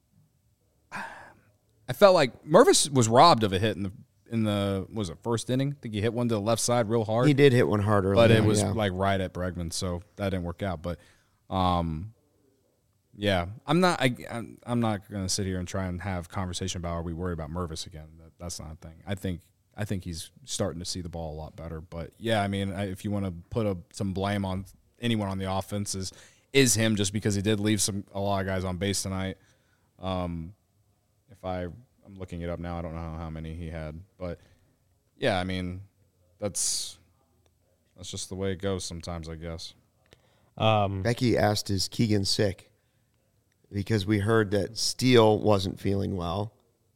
I felt like Mervis was robbed of a hit in the was it first inning? I think he hit one to the left side real hard. He did hit one hard early. But it was like right at Bregman, so that didn't work out. But, yeah, I'm not going to sit here and try and have conversation about are we worried about Mervis again? That's not a thing. I think he's starting to see the ball a lot better. But yeah, I mean, if you want to put some blame on anyone on the offense, is him just because he did leave a lot of guys on base tonight. If I'm looking it up now, I don't know how many he had, but yeah, I mean, that's just the way it goes sometimes, I guess. Becky asked, is Keegan sick? because we heard that Steele wasn't feeling well.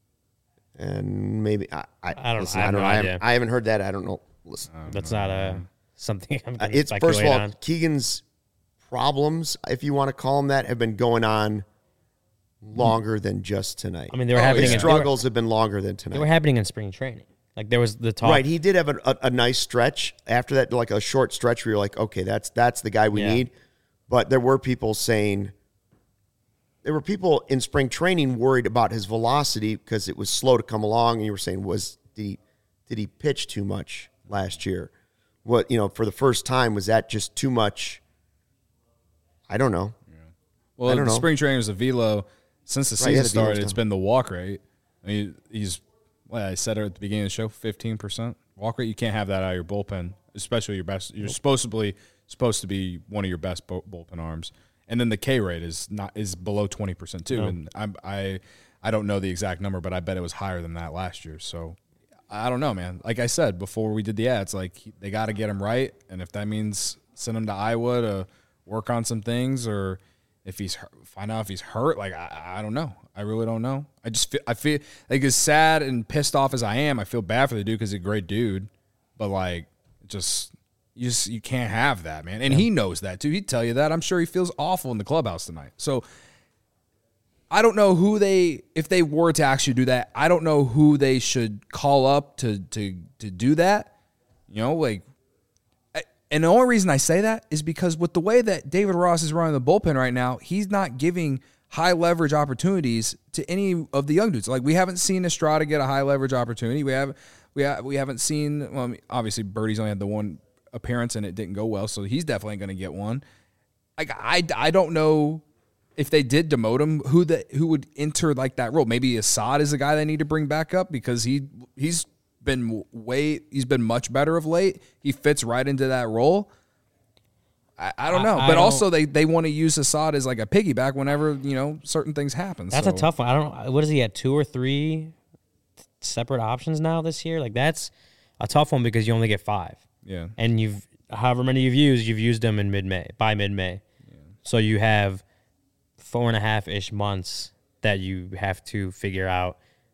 And maybe I don't listen, know. I have no idea. I haven't heard that. I don't know. Listen, That's not something I'm going to it's speculate first of all, on. Keegan's problems, if you want to call them that, have been going on longer than just tonight. I mean, they were happening. His struggles have been longer than tonight. They were happening in spring training. Like there was the talk. Right, he did have a nice stretch after that, like a short stretch where you're like, okay, that's the guy we need. But there were people saying, there were people in spring training worried about his velocity because it was slow to come along, and you were saying, did he pitch too much last year? What, for the first time, was that just too much? I don't know. Yeah. Well, the spring training was a velo. Since the season started, it's been the walk rate. I mean, I said it at the beginning of the show, 15% walk rate. You can't have that out of your bullpen, especially your best. You're supposed to be one of your best bullpen arms. And then the K rate is below 20% too. No. And I don't know the exact number, but I bet it was higher than that last year. So I don't know, man. Like I said before we did the ads, like they got to get him right, and if that means send him to Iowa to work on some things, or if find out if he's hurt, like I don't know. I really don't know. I feel like as sad and pissed off as I am, I feel bad for the dude because he's a great dude, but like you can't have that, man. And he knows that too. He'd tell you that. I'm sure he feels awful in the clubhouse tonight. So I don't know if they were to actually do that, I don't know who they should call up to do that. And the only reason I say that is because with the way that David Ross is running the bullpen right now, he's not giving high leverage opportunities to any of the young dudes. Like we haven't seen Estrada get a high leverage opportunity. We haven't seen. Well, I mean, obviously Birdie's only had the one appearance and it didn't go well, so he's definitely going to get one. Like I don't know if they did demote him, who would enter like that role. Maybe Assad is the guy they need to bring back up because he's been much better of late. He fits right into that role. I don't know. But also they want to use Assad as like a piggyback whenever, certain things happen. That's a tough one. I don't know. What is he at, 2 or 3 separate options now this year? Like that's a tough one because you only get 5. Yeah. And however many you've used them in by mid-May. Yeah. So you have 4.5-ish months that you have to figure out,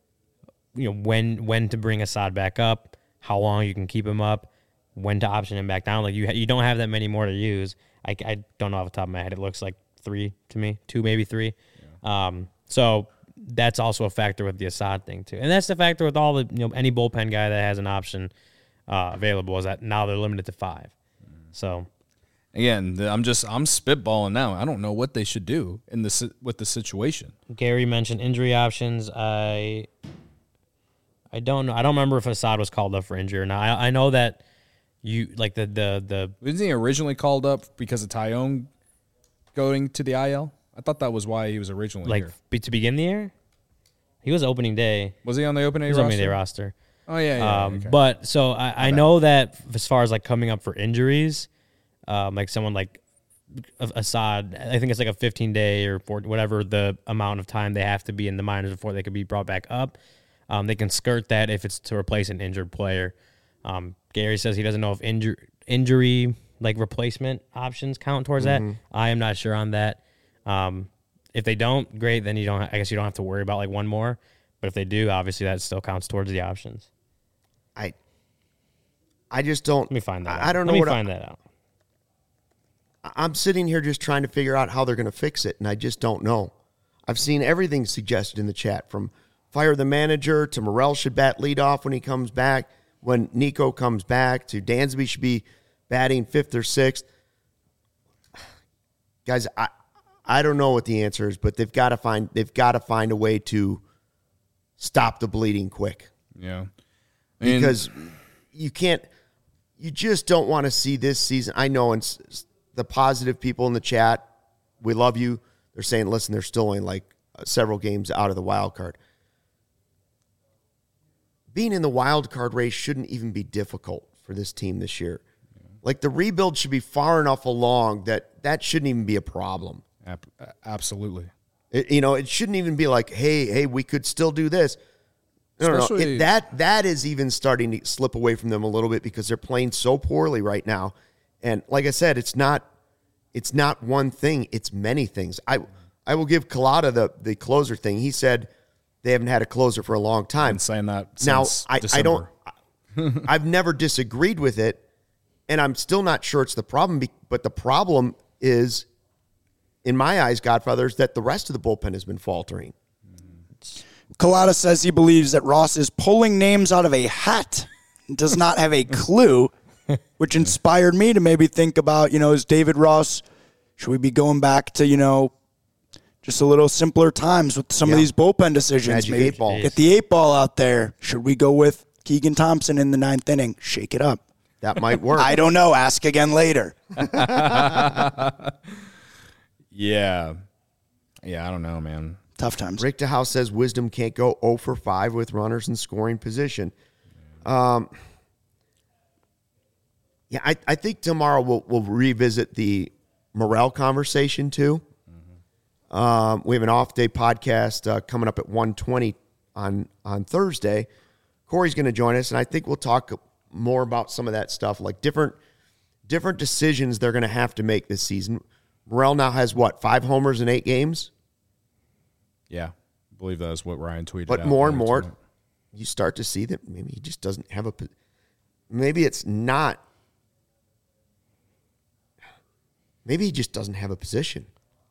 when to bring Assad back up, how long you can keep him up, when to option him back down. Like you don't have that many more to use. I don't know off the top of my head. It looks like 3 to me, 2 maybe 3. Yeah. So that's also a factor with the Assad thing too, and that's the factor with all the any bullpen guy that has an option available is that now they're limited to 5. So. Again, I'm spitballing now. I don't know what they should do with the situation. Gary mentioned injury options. I don't know. I don't remember if Assad was called up for injury or not. I know that you like the wasn't he originally called up because of Tyone going to the IL? I thought that was why he was originally here. To begin the year. He was opening day. Was he on the opening day roster? Oh yeah. Okay. But so I know that as far as like coming up for injuries. Like someone like Assad, I think it's like a 15-day or whatever the amount of time they have to be in the minors before they could be brought back up. They can skirt that if it's to replace an injured player. Gary says he doesn't know if injury like replacement options count towards that. I am not sure on that. If they don't, great. Then I guess you don't have to worry about like one more. But if they do, obviously that still counts towards the options. I just don't. Let me find that. I don't know. Let me find that out. I'm sitting here just trying to figure out how they're going to fix it, and I just don't know. I've seen everything suggested in the chat, from fire the manager to Morel should bat leadoff when he comes back, when Nico comes back, to Dansby should be batting 5th or 6th. Guys, I don't know what the answer is, but they've got to find a way to stop the bleeding quick. Yeah, because you just don't want to see this season. I know it's the positive people in the chat, we love you. They're saying, listen, they're still only like several games out of the wild card. Being in the wild card race shouldn't even be difficult for this team this year. Like the rebuild should be far enough along that shouldn't even be a problem. Absolutely. It shouldn't even be like, hey, we could still do this. No. That is even starting to slip away from them a little bit because they're playing so poorly right now. And like I said, it's not one thing, it's many things. I will give Collada the closer thing. He said they haven't had a closer for a long time. Been saying that Now, since I December. don't. I've never disagreed with it, and I'm still not sure it's the problem. But the problem is, in my eyes, Godfathers, that the rest of the bullpen has been faltering. Collada says he believes that Ross is pulling names out of a hat, does not have a clue, which inspired me to maybe think about, is David Ross, should we be going back to, just a little simpler times with some of these bullpen decisions? Magic Maybe 8 ball. get the 8-ball out there. Should we go with Keegan Thompson in the 9th inning? Shake it up. That might work. I don't know. Ask again later. Yeah, I don't know, man. Tough times. Rick DeHouse says Wisdom can't go 0 for 5 with runners in scoring position. I think tomorrow we'll revisit the Morel conversation too. We have an off-day podcast coming up at 1:20 on Thursday. Corey's going to join us, and I think we'll talk more about some of that stuff, like different decisions they're going to have to make this season. Morel now has, 5 homers in 8 games? Yeah, I believe that is what Ryan tweeted. But out more and earlier more, tonight. you start to see that maybe he just doesn't have maybe it's not. Maybe he just doesn't have a position.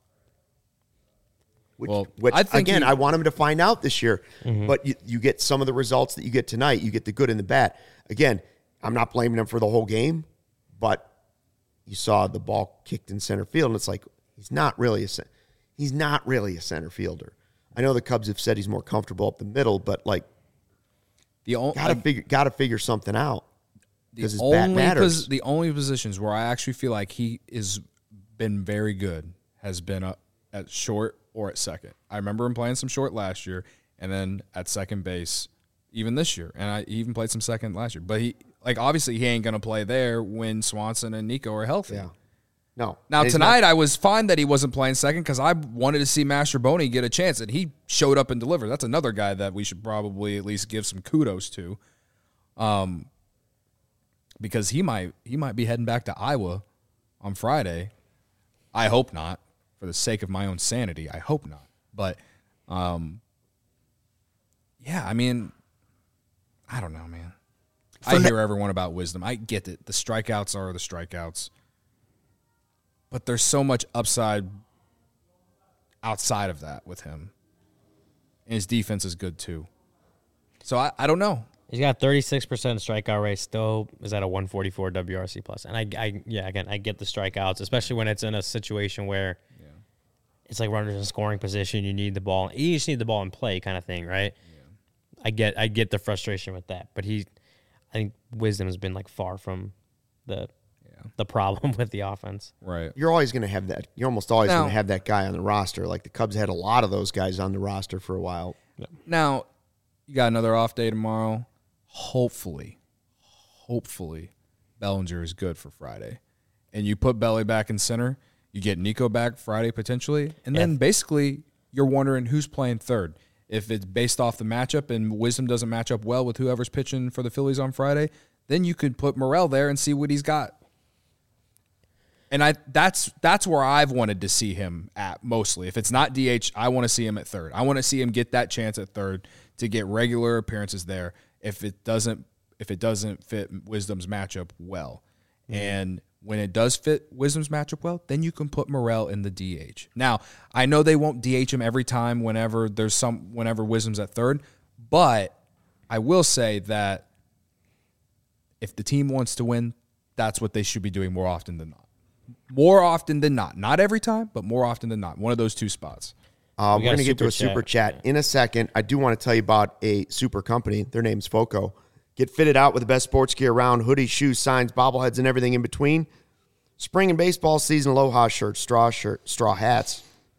Which I think again, I want him to find out this year. But you get some of the results that you get tonight. You get the good and the bad. Again, I'm not blaming him for the whole game, but you saw the ball kicked in center field, and it's like he's not really a center fielder. I know the Cubs have said he's more comfortable up the middle, but gotta figure something out because his bat matters. The only positions where I actually feel like he is been very good has been at short or at second. I remember him playing some short last year, and then at second base even this year, and he even played some second last year. But obviously he ain't gonna play there when Swanson and Nico are healthy. Yeah. No. Now, tonight, I was fine that he wasn't playing second because I wanted to see Mastroboni get a chance, and he showed up and delivered. That's another guy that we should probably at least give some kudos to, because he might be heading back to Iowa on Friday. I hope not, for the sake of my own sanity. I hope not. But, yeah, I mean, I don't know, man. I hear everyone about Wisdom. I get it. The strikeouts are the strikeouts. But there's so much upside outside of that with him. And his defense is good too. So I don't know. He's got 36% strikeout rate, still is at a 144 WRC plus. And I get the strikeouts, especially when it's in a situation where it's like runners in scoring position, you need the ball. You just need the ball in play kind of thing, right? Yeah. I get the frustration with that. But I think Wisdom has been far from the problem with the offense. Right. You're always going to have that. You're almost always going to have that guy on the roster. Like the Cubs had a lot of those guys on the roster for a while. Now, you got another off day tomorrow. Hopefully, Bellinger is good for Friday. And you put Belly back in center. You get Nico back Friday potentially. And then basically you're wondering who's playing third. If it's based off the matchup and Wisdom doesn't match up well with whoever's pitching for the Phillies on Friday, then you could put Morel there and see what he's got. And that's where I've wanted to see him at mostly. If it's not DH, I want to see him at third. I want to see him get that chance at third to get regular appearances there if it doesn't fit Wisdom's matchup well. And when it does fit Wisdom's matchup well, then you can put Morel in the DH. Now, I know they won't DH him every time whenever Wisdom's at third, but I will say that if the team wants to win, that's what they should be doing more often than not. More often than not. Not every time, but more often than not. One of those two spots. We're going to get to a super chat in a second. I do want to tell you about a super company. Their name's FOCO. Get fitted out with the best sports gear around, hoodies, shoes, signs, bobbleheads, and everything in between. Spring and baseball season, Aloha shirts, straw hats,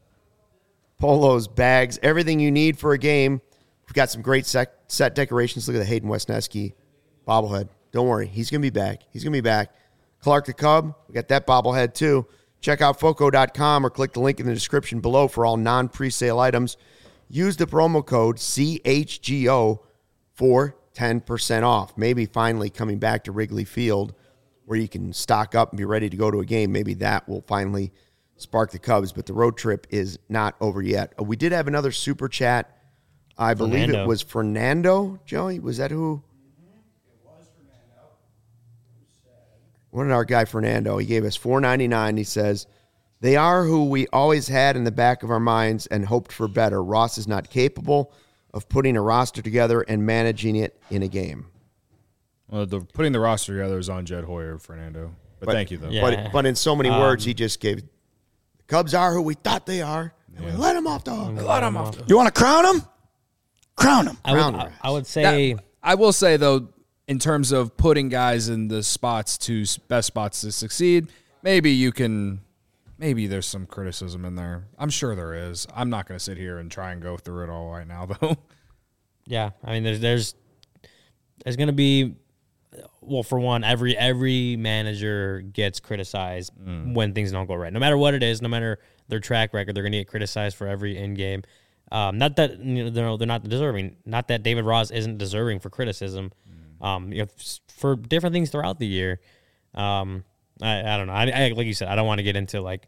polos, bags, everything you need for a game. We've got some great set decorations. Look at the Hayden Wesneski bobblehead. Don't worry. He's going to be back. Clark the Cub, we got that bobblehead too. Check out FOCO.com or click the link in the description below for all non-presale items. Use the promo code CHGO for 10% off. Maybe finally coming back to Wrigley Field where you can stock up and be ready to go to a game. Maybe that will finally spark the Cubs, but the road trip is not over yet. We did have another super chat. I believe it was Fernando. Joey, was that who? It was Fernando. What did our guy Fernando? He gave us $4.99. He says, "They are who we always had in the back of our minds and hoped for better. Ross is not capable of putting a roster together and managing it in a game." Well, putting the roster together is on Jed Hoyer, Fernando. But thank you, though. Yeah. But in so many words, he just gave, the Cubs are who we thought they are, and we let them off the hook. Let him off. You want to crown them? Crown them. I would say I will say, though, in terms of putting guys in the spots to best spots to succeed, maybe there's some criticism in there. I'm sure there is. I'm not going to sit here and try and go through it all right now, though. yeah. I mean, there's going to be, well, for one, every manager gets criticized when things don't go right. No matter what it is, no matter their track record, they're going to get criticized for every in game. Not that they're not deserving. Not that David Ross isn't deserving for criticism. For different things throughout the year. I don't know. I like you said, I don't want to get into like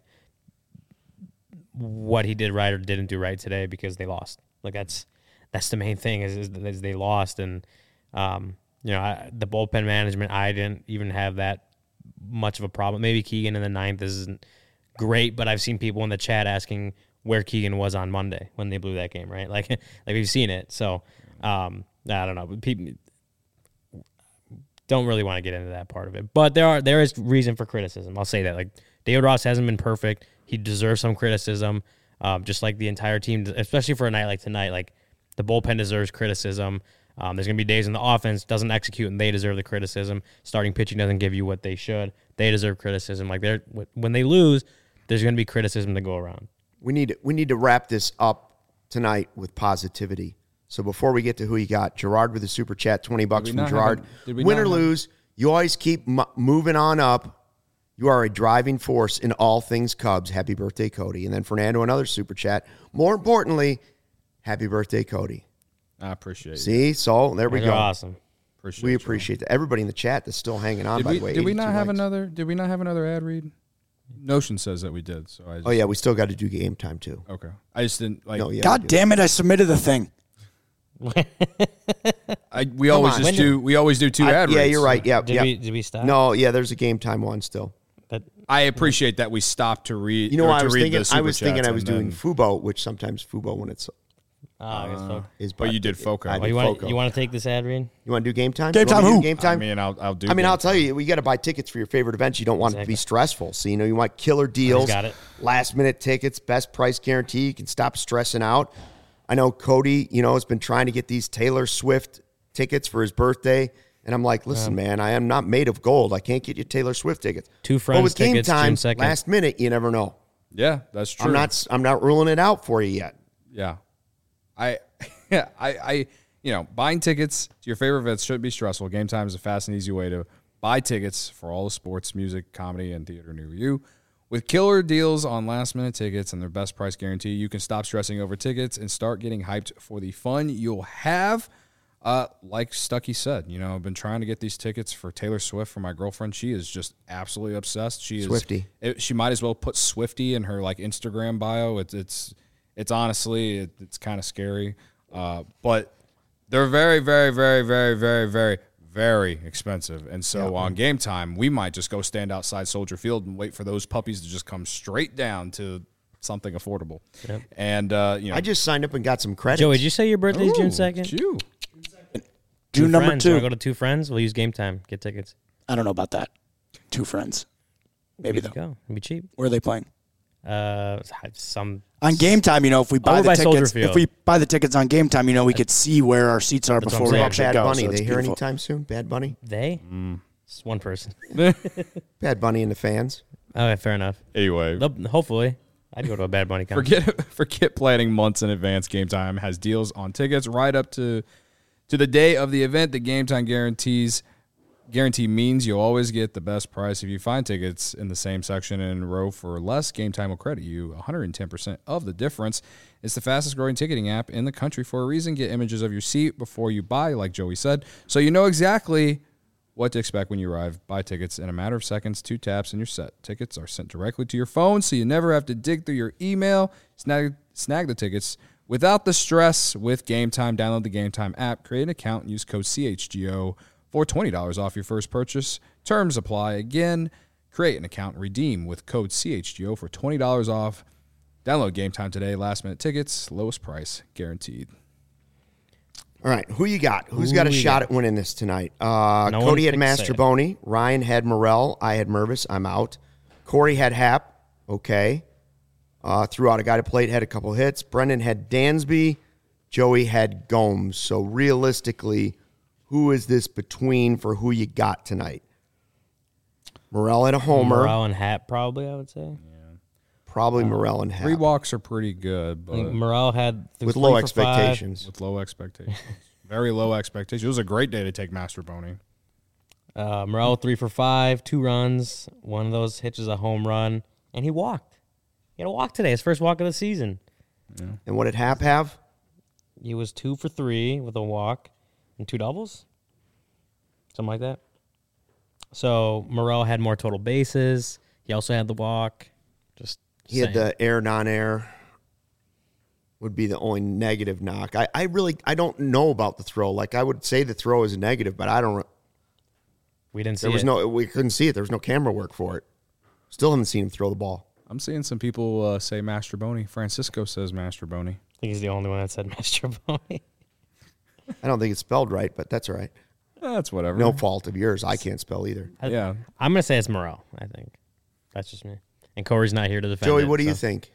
what he did right or didn't do right today because they lost. Like that's the main thing is they lost, and the bullpen management, I didn't even have that much of a problem. Maybe Keegan in the ninth isn't great, but I've seen people in the chat asking where Keegan was on Monday when they blew that game, right? Like we've seen it. So I don't know. People don't really want to get into that part of it. But there is reason for criticism. I'll say that. Like David Ross hasn't been perfect. He deserves some criticism. Just like the entire team, especially for a night like tonight. Like the bullpen deserves criticism. There's going to be days when the offense doesn't execute and they deserve the criticism. Starting pitching doesn't give you what they should. They deserve criticism. Like when they lose, there's going to be criticism to go around. We need to wrap this up tonight with positivity. So before we get to who you got, Gerard with a super chat, $20 from Gerard. Win or lose, you always keep moving on up. You are a driving force in all things Cubs. Happy birthday, Cody. And then Fernando, another super chat. More importantly, happy birthday, Cody. I appreciate it. See? So there we go. Awesome. We appreciate that. Everybody in the chat that's still hanging on, by the way. Did we not have likes. another? Did we not have another ad read? Notion says that we did. So I just, Oh, yeah, we still got to do game time, too. Okay. I just didn't like. No, yeah, God we do. damn it! I submitted the thing. We always do two ad reads. Yeah, you're right. Yeah, Did we stop? No, yeah, there's a game time one still. I appreciate that we stopped to read. You know, I was thinking I I was doing Fubo, which sometimes Fubo when it's I guess so. is. But you did Foco. I Oh, did You Foco. want to take this ad read? You want to do game time? Game You want time me to do who? Game time. I mean, I'll do. I'll tell you, we got to buy tickets for your favorite events. You don't want it to be stressful. So, you want killer deals, got it. last minute tickets, best price guarantee. You can stop stressing out. I know Cody, has been trying to get these Taylor Swift tickets for his birthday. And I'm like, listen, man, I am not made of gold. I can't get you Taylor Swift tickets. Two Friends but with game tickets, time, June 2nd. last minute, you never know. Yeah, that's true. I'm not ruling it out for you yet. Yeah. Buying tickets to your favorite events shouldn't be stressful. Game time is a fast and easy way to buy tickets for all the sports, music, comedy, and theater near you. With killer deals on last-minute tickets and their best price guarantee, you can stop stressing over tickets and start getting hyped for the fun you'll have. Like Stuckey said, I've been trying to get these tickets for Taylor Swift for my girlfriend. She is just absolutely obsessed. She is Swiftie. She might as well put Swiftie in her Instagram bio. It's honestly it's kind of scary, but they're very, very, very, very, very, very, very expensive. And so on game time, we might just go stand outside Soldier Field and wait for those puppies to just come straight down to something affordable. Yep. And I just signed up and got some credits. Joey, did you say your birthday's June 2nd? Phew. June number Friends. You 2. want to go to Two Friends? We'll use game time. Get tickets. I don't know about that. 2 friends. Maybe Let's though. go. It'll be cheap. Where are they playing? Some On game time, if we buy Over the by Soldier tickets, Field. if we buy the tickets on game time, we could see where our seats are That's before what we I'm actually Bad go. Bunny, so it's they here beautiful. anytime soon? Bad Bunny? they. It's one person. Bad Bunny and the fans. Okay, fair enough. Anyway, Hopefully, I'd go to a Bad Bunny concert. forget planning months in advance. Game Time has deals on tickets right up to the day of the event. The Game Time guarantee means you'll always get the best price. If you find tickets in the same section and row for less, Game Time will credit you 110% of the difference. It's the fastest growing ticketing app in the country for a reason. Get images of your seat before you buy, like Joey said, so you know exactly what to expect when you arrive. Buy tickets in a matter of seconds, 2 taps, and you're set. Tickets are sent directly to your phone, so you never have to dig through your email. Snag the tickets without the stress with Game Time. Download the Game Time app, create an account, and use code CHGO for $20 off your first purchase. Terms apply. Again, create an account, redeem with code CHGO for $20 off. Download Game Time today. Last-minute tickets, lowest price guaranteed. All right, who you got? Who's got a shot at winning this tonight? Cody had Mastroboni. Ryan had Morrell. I had Mervis. I'm out. Corey had Hap. Okay. Threw out a guy to plate, had a couple hits. Brendan had Dansby. Joey had Gomes. So realistically, who is this between for who you got tonight? Morrell had a homer. Morrell and Hap, probably, I would say. Probably Morrell and Hap. 3 walks are pretty good, I think but Morrell had with low expectations. with low expectations. Very low expectations. It was a great day to take Mastroboni. Morrell 3 for 5, 2 runs. One of those hits is a home run, and he walked. He had a walk today, his first walk of the season. And what did Hap have? He was 2 for 3 with a walk and 2 doubles, something like that. So Morrell had more total bases. He also had the walk. He had the air, non-air. Would be the only negative knock. I don't know about the throw. Like, I would say the throw is a negative, but I don't. We didn't see We couldn't see it. There was no camera work for it. Still haven't seen him throw the ball. I'm seeing some people say Mastroboni. Francisco says Mastroboni. I think he's the only one that said Mastroboni. I don't think it's spelled right, but that's all right. That's whatever. No fault of yours. I can't spell either. Yeah. I'm going to say it's Morrell, I think. That's just me. And Corey's not here to defend Joey, it, what do you think?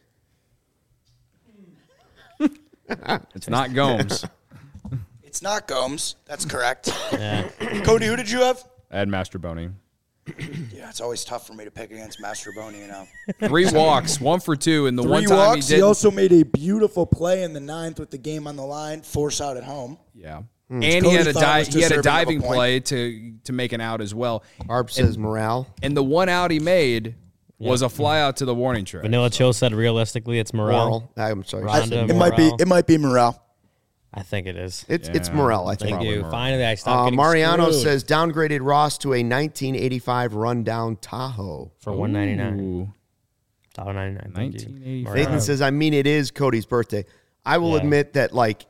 It's not Gomes. It's not Gomes. That's correct. Yeah. Cody, who did you have? I had Mastroboni. Yeah, it's always tough for me to pick against Mastroboni, 3 walks, 1 for 2, and the 3 one time walks. he He did. also made a beautiful play in the 9th with the game on the line, force out at home. Yeah. And Cody he had a thought was he had a deserving of a diving point. play to make an out as well. Arp says morale. And the one out he made was a fly out to the warning track. Vanilla Chill said realistically it's Morrell. Moral. I'm sorry. Ronda, It might be. Morrell. It might be Morale. I think it is. It's Morel, I think. Thank you. Morrell. Finally, I stopped getting Mariano screwed says downgraded Ross to a 1985 rundown Tahoe. for $199. Ooh. $1.99. Thank you. 1985. Nathan says, I mean, it is Cody's birthday. I will admit that, like,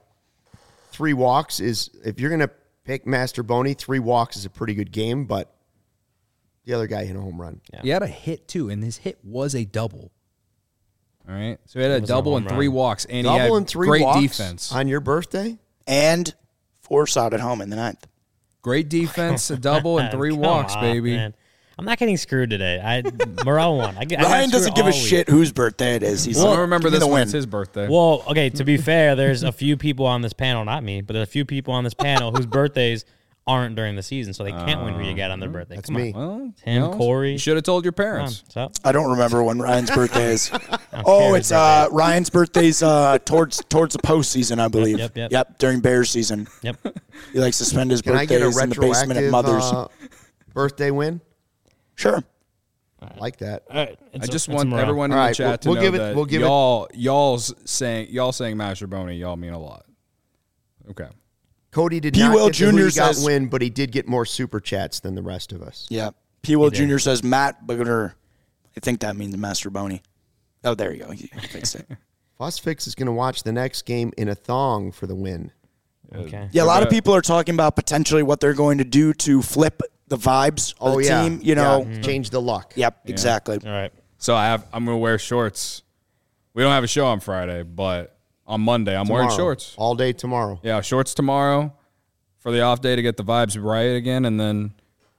3 walks is, if you're going to pick Mastroboni, 3 walks is a pretty good game, but the other guy hit a home run. Yeah. He had a hit, too, and his hit was a double. All right? So he had a was a double home and 3 run. walks, and Double he had and 3 great walks defense. on your birthday? And force out at home in the 9th. Great defense, a double, and 3 Come walks, on, baby. man. I'm not getting screwed today. Morrell won. I got Ryan doesn't screwed give a all week. shit whose birthday it is. He's I like, don't remember "Give me this the one. win." It's his birthday. Well, okay, to be fair, there's a few people on this panel, not me, but there's a few people on this panel whose birthdays aren't during the season, so they can't win who you got on their birthday. That's Come on. me. Well, Tim, Corey. You should have told your Come on. parents. So, I don't remember when Ryan's birthday is. care Oh, his it's Ryan's birthday's towards the postseason, I believe. Yep. During Bears season. yep. He likes to spend his Can I get a birthdays in the basement at retroactive Mother's. birthday win? Sure. I like that. All right. I just want everyone in All the right, chat we'll to know give it- that we'll give it- y'all saying Mastroboni, y'all mean a lot. Okay. Cody did P. not Will get the who Jr. you got says- win, but he did get more super chats than the rest of us. Yeah. P. Will Jr. says Matt Bugger. I think that means Mastroboni. Oh, there you go. He fixed it. Fuss Fix is going to watch the next game in a thong for the win. Okay. Yeah, a lot of people are talking about potentially what they're going to do to flip the vibes of the team. You know. Yeah. Change the luck. Yep, exactly. All right. So I'm gonna wear shorts. We don't have a show on Friday, but on Monday I'm wearing Tomorrow. shorts. All day tomorrow. Yeah, shorts tomorrow for the off day to get the vibes right again, and then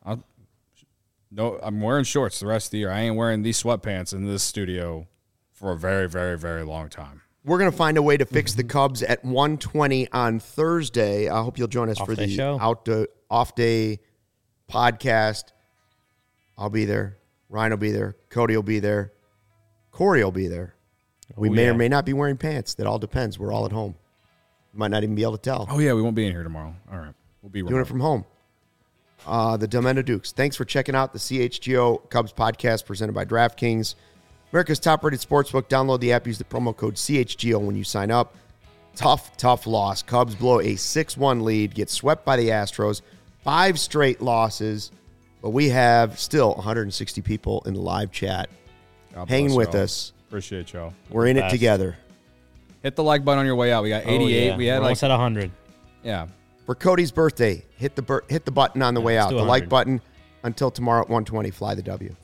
I'm wearing shorts the rest of the year. I ain't wearing these sweatpants in this studio for a very, very, very long time. We're going to find a way to fix the Cubs at 1:20 on Thursday. I hope you'll join us for Off-day the show. off-day podcast. I'll be there. Ryan will be there. Cody will be there. Corey will be there. We may or may not be wearing pants. That all depends. We're all at home. Might not even be able to tell. Oh yeah, we won't be in here tomorrow. All right, we'll be Doing it from home. The Demendo Dukes. Thanks for checking out the CHGO Cubs podcast presented by DraftKings. America's top-rated sportsbook. Download the app. Use the promo code CHGO when you sign up. Tough loss. Cubs blow a 6-1 lead. Get swept by the Astros. 5 straight losses, but we have still 160 people in the live chat God hanging bless with y'all. us. Appreciate y'all. We're in it Best. together. Hit the like button on your way out. We got 88. Oh, yeah. We had We're almost at 100. yeah. For Cody's birthday, hit the button on the way out. do The like 100. button until tomorrow at 1:20. Fly the W.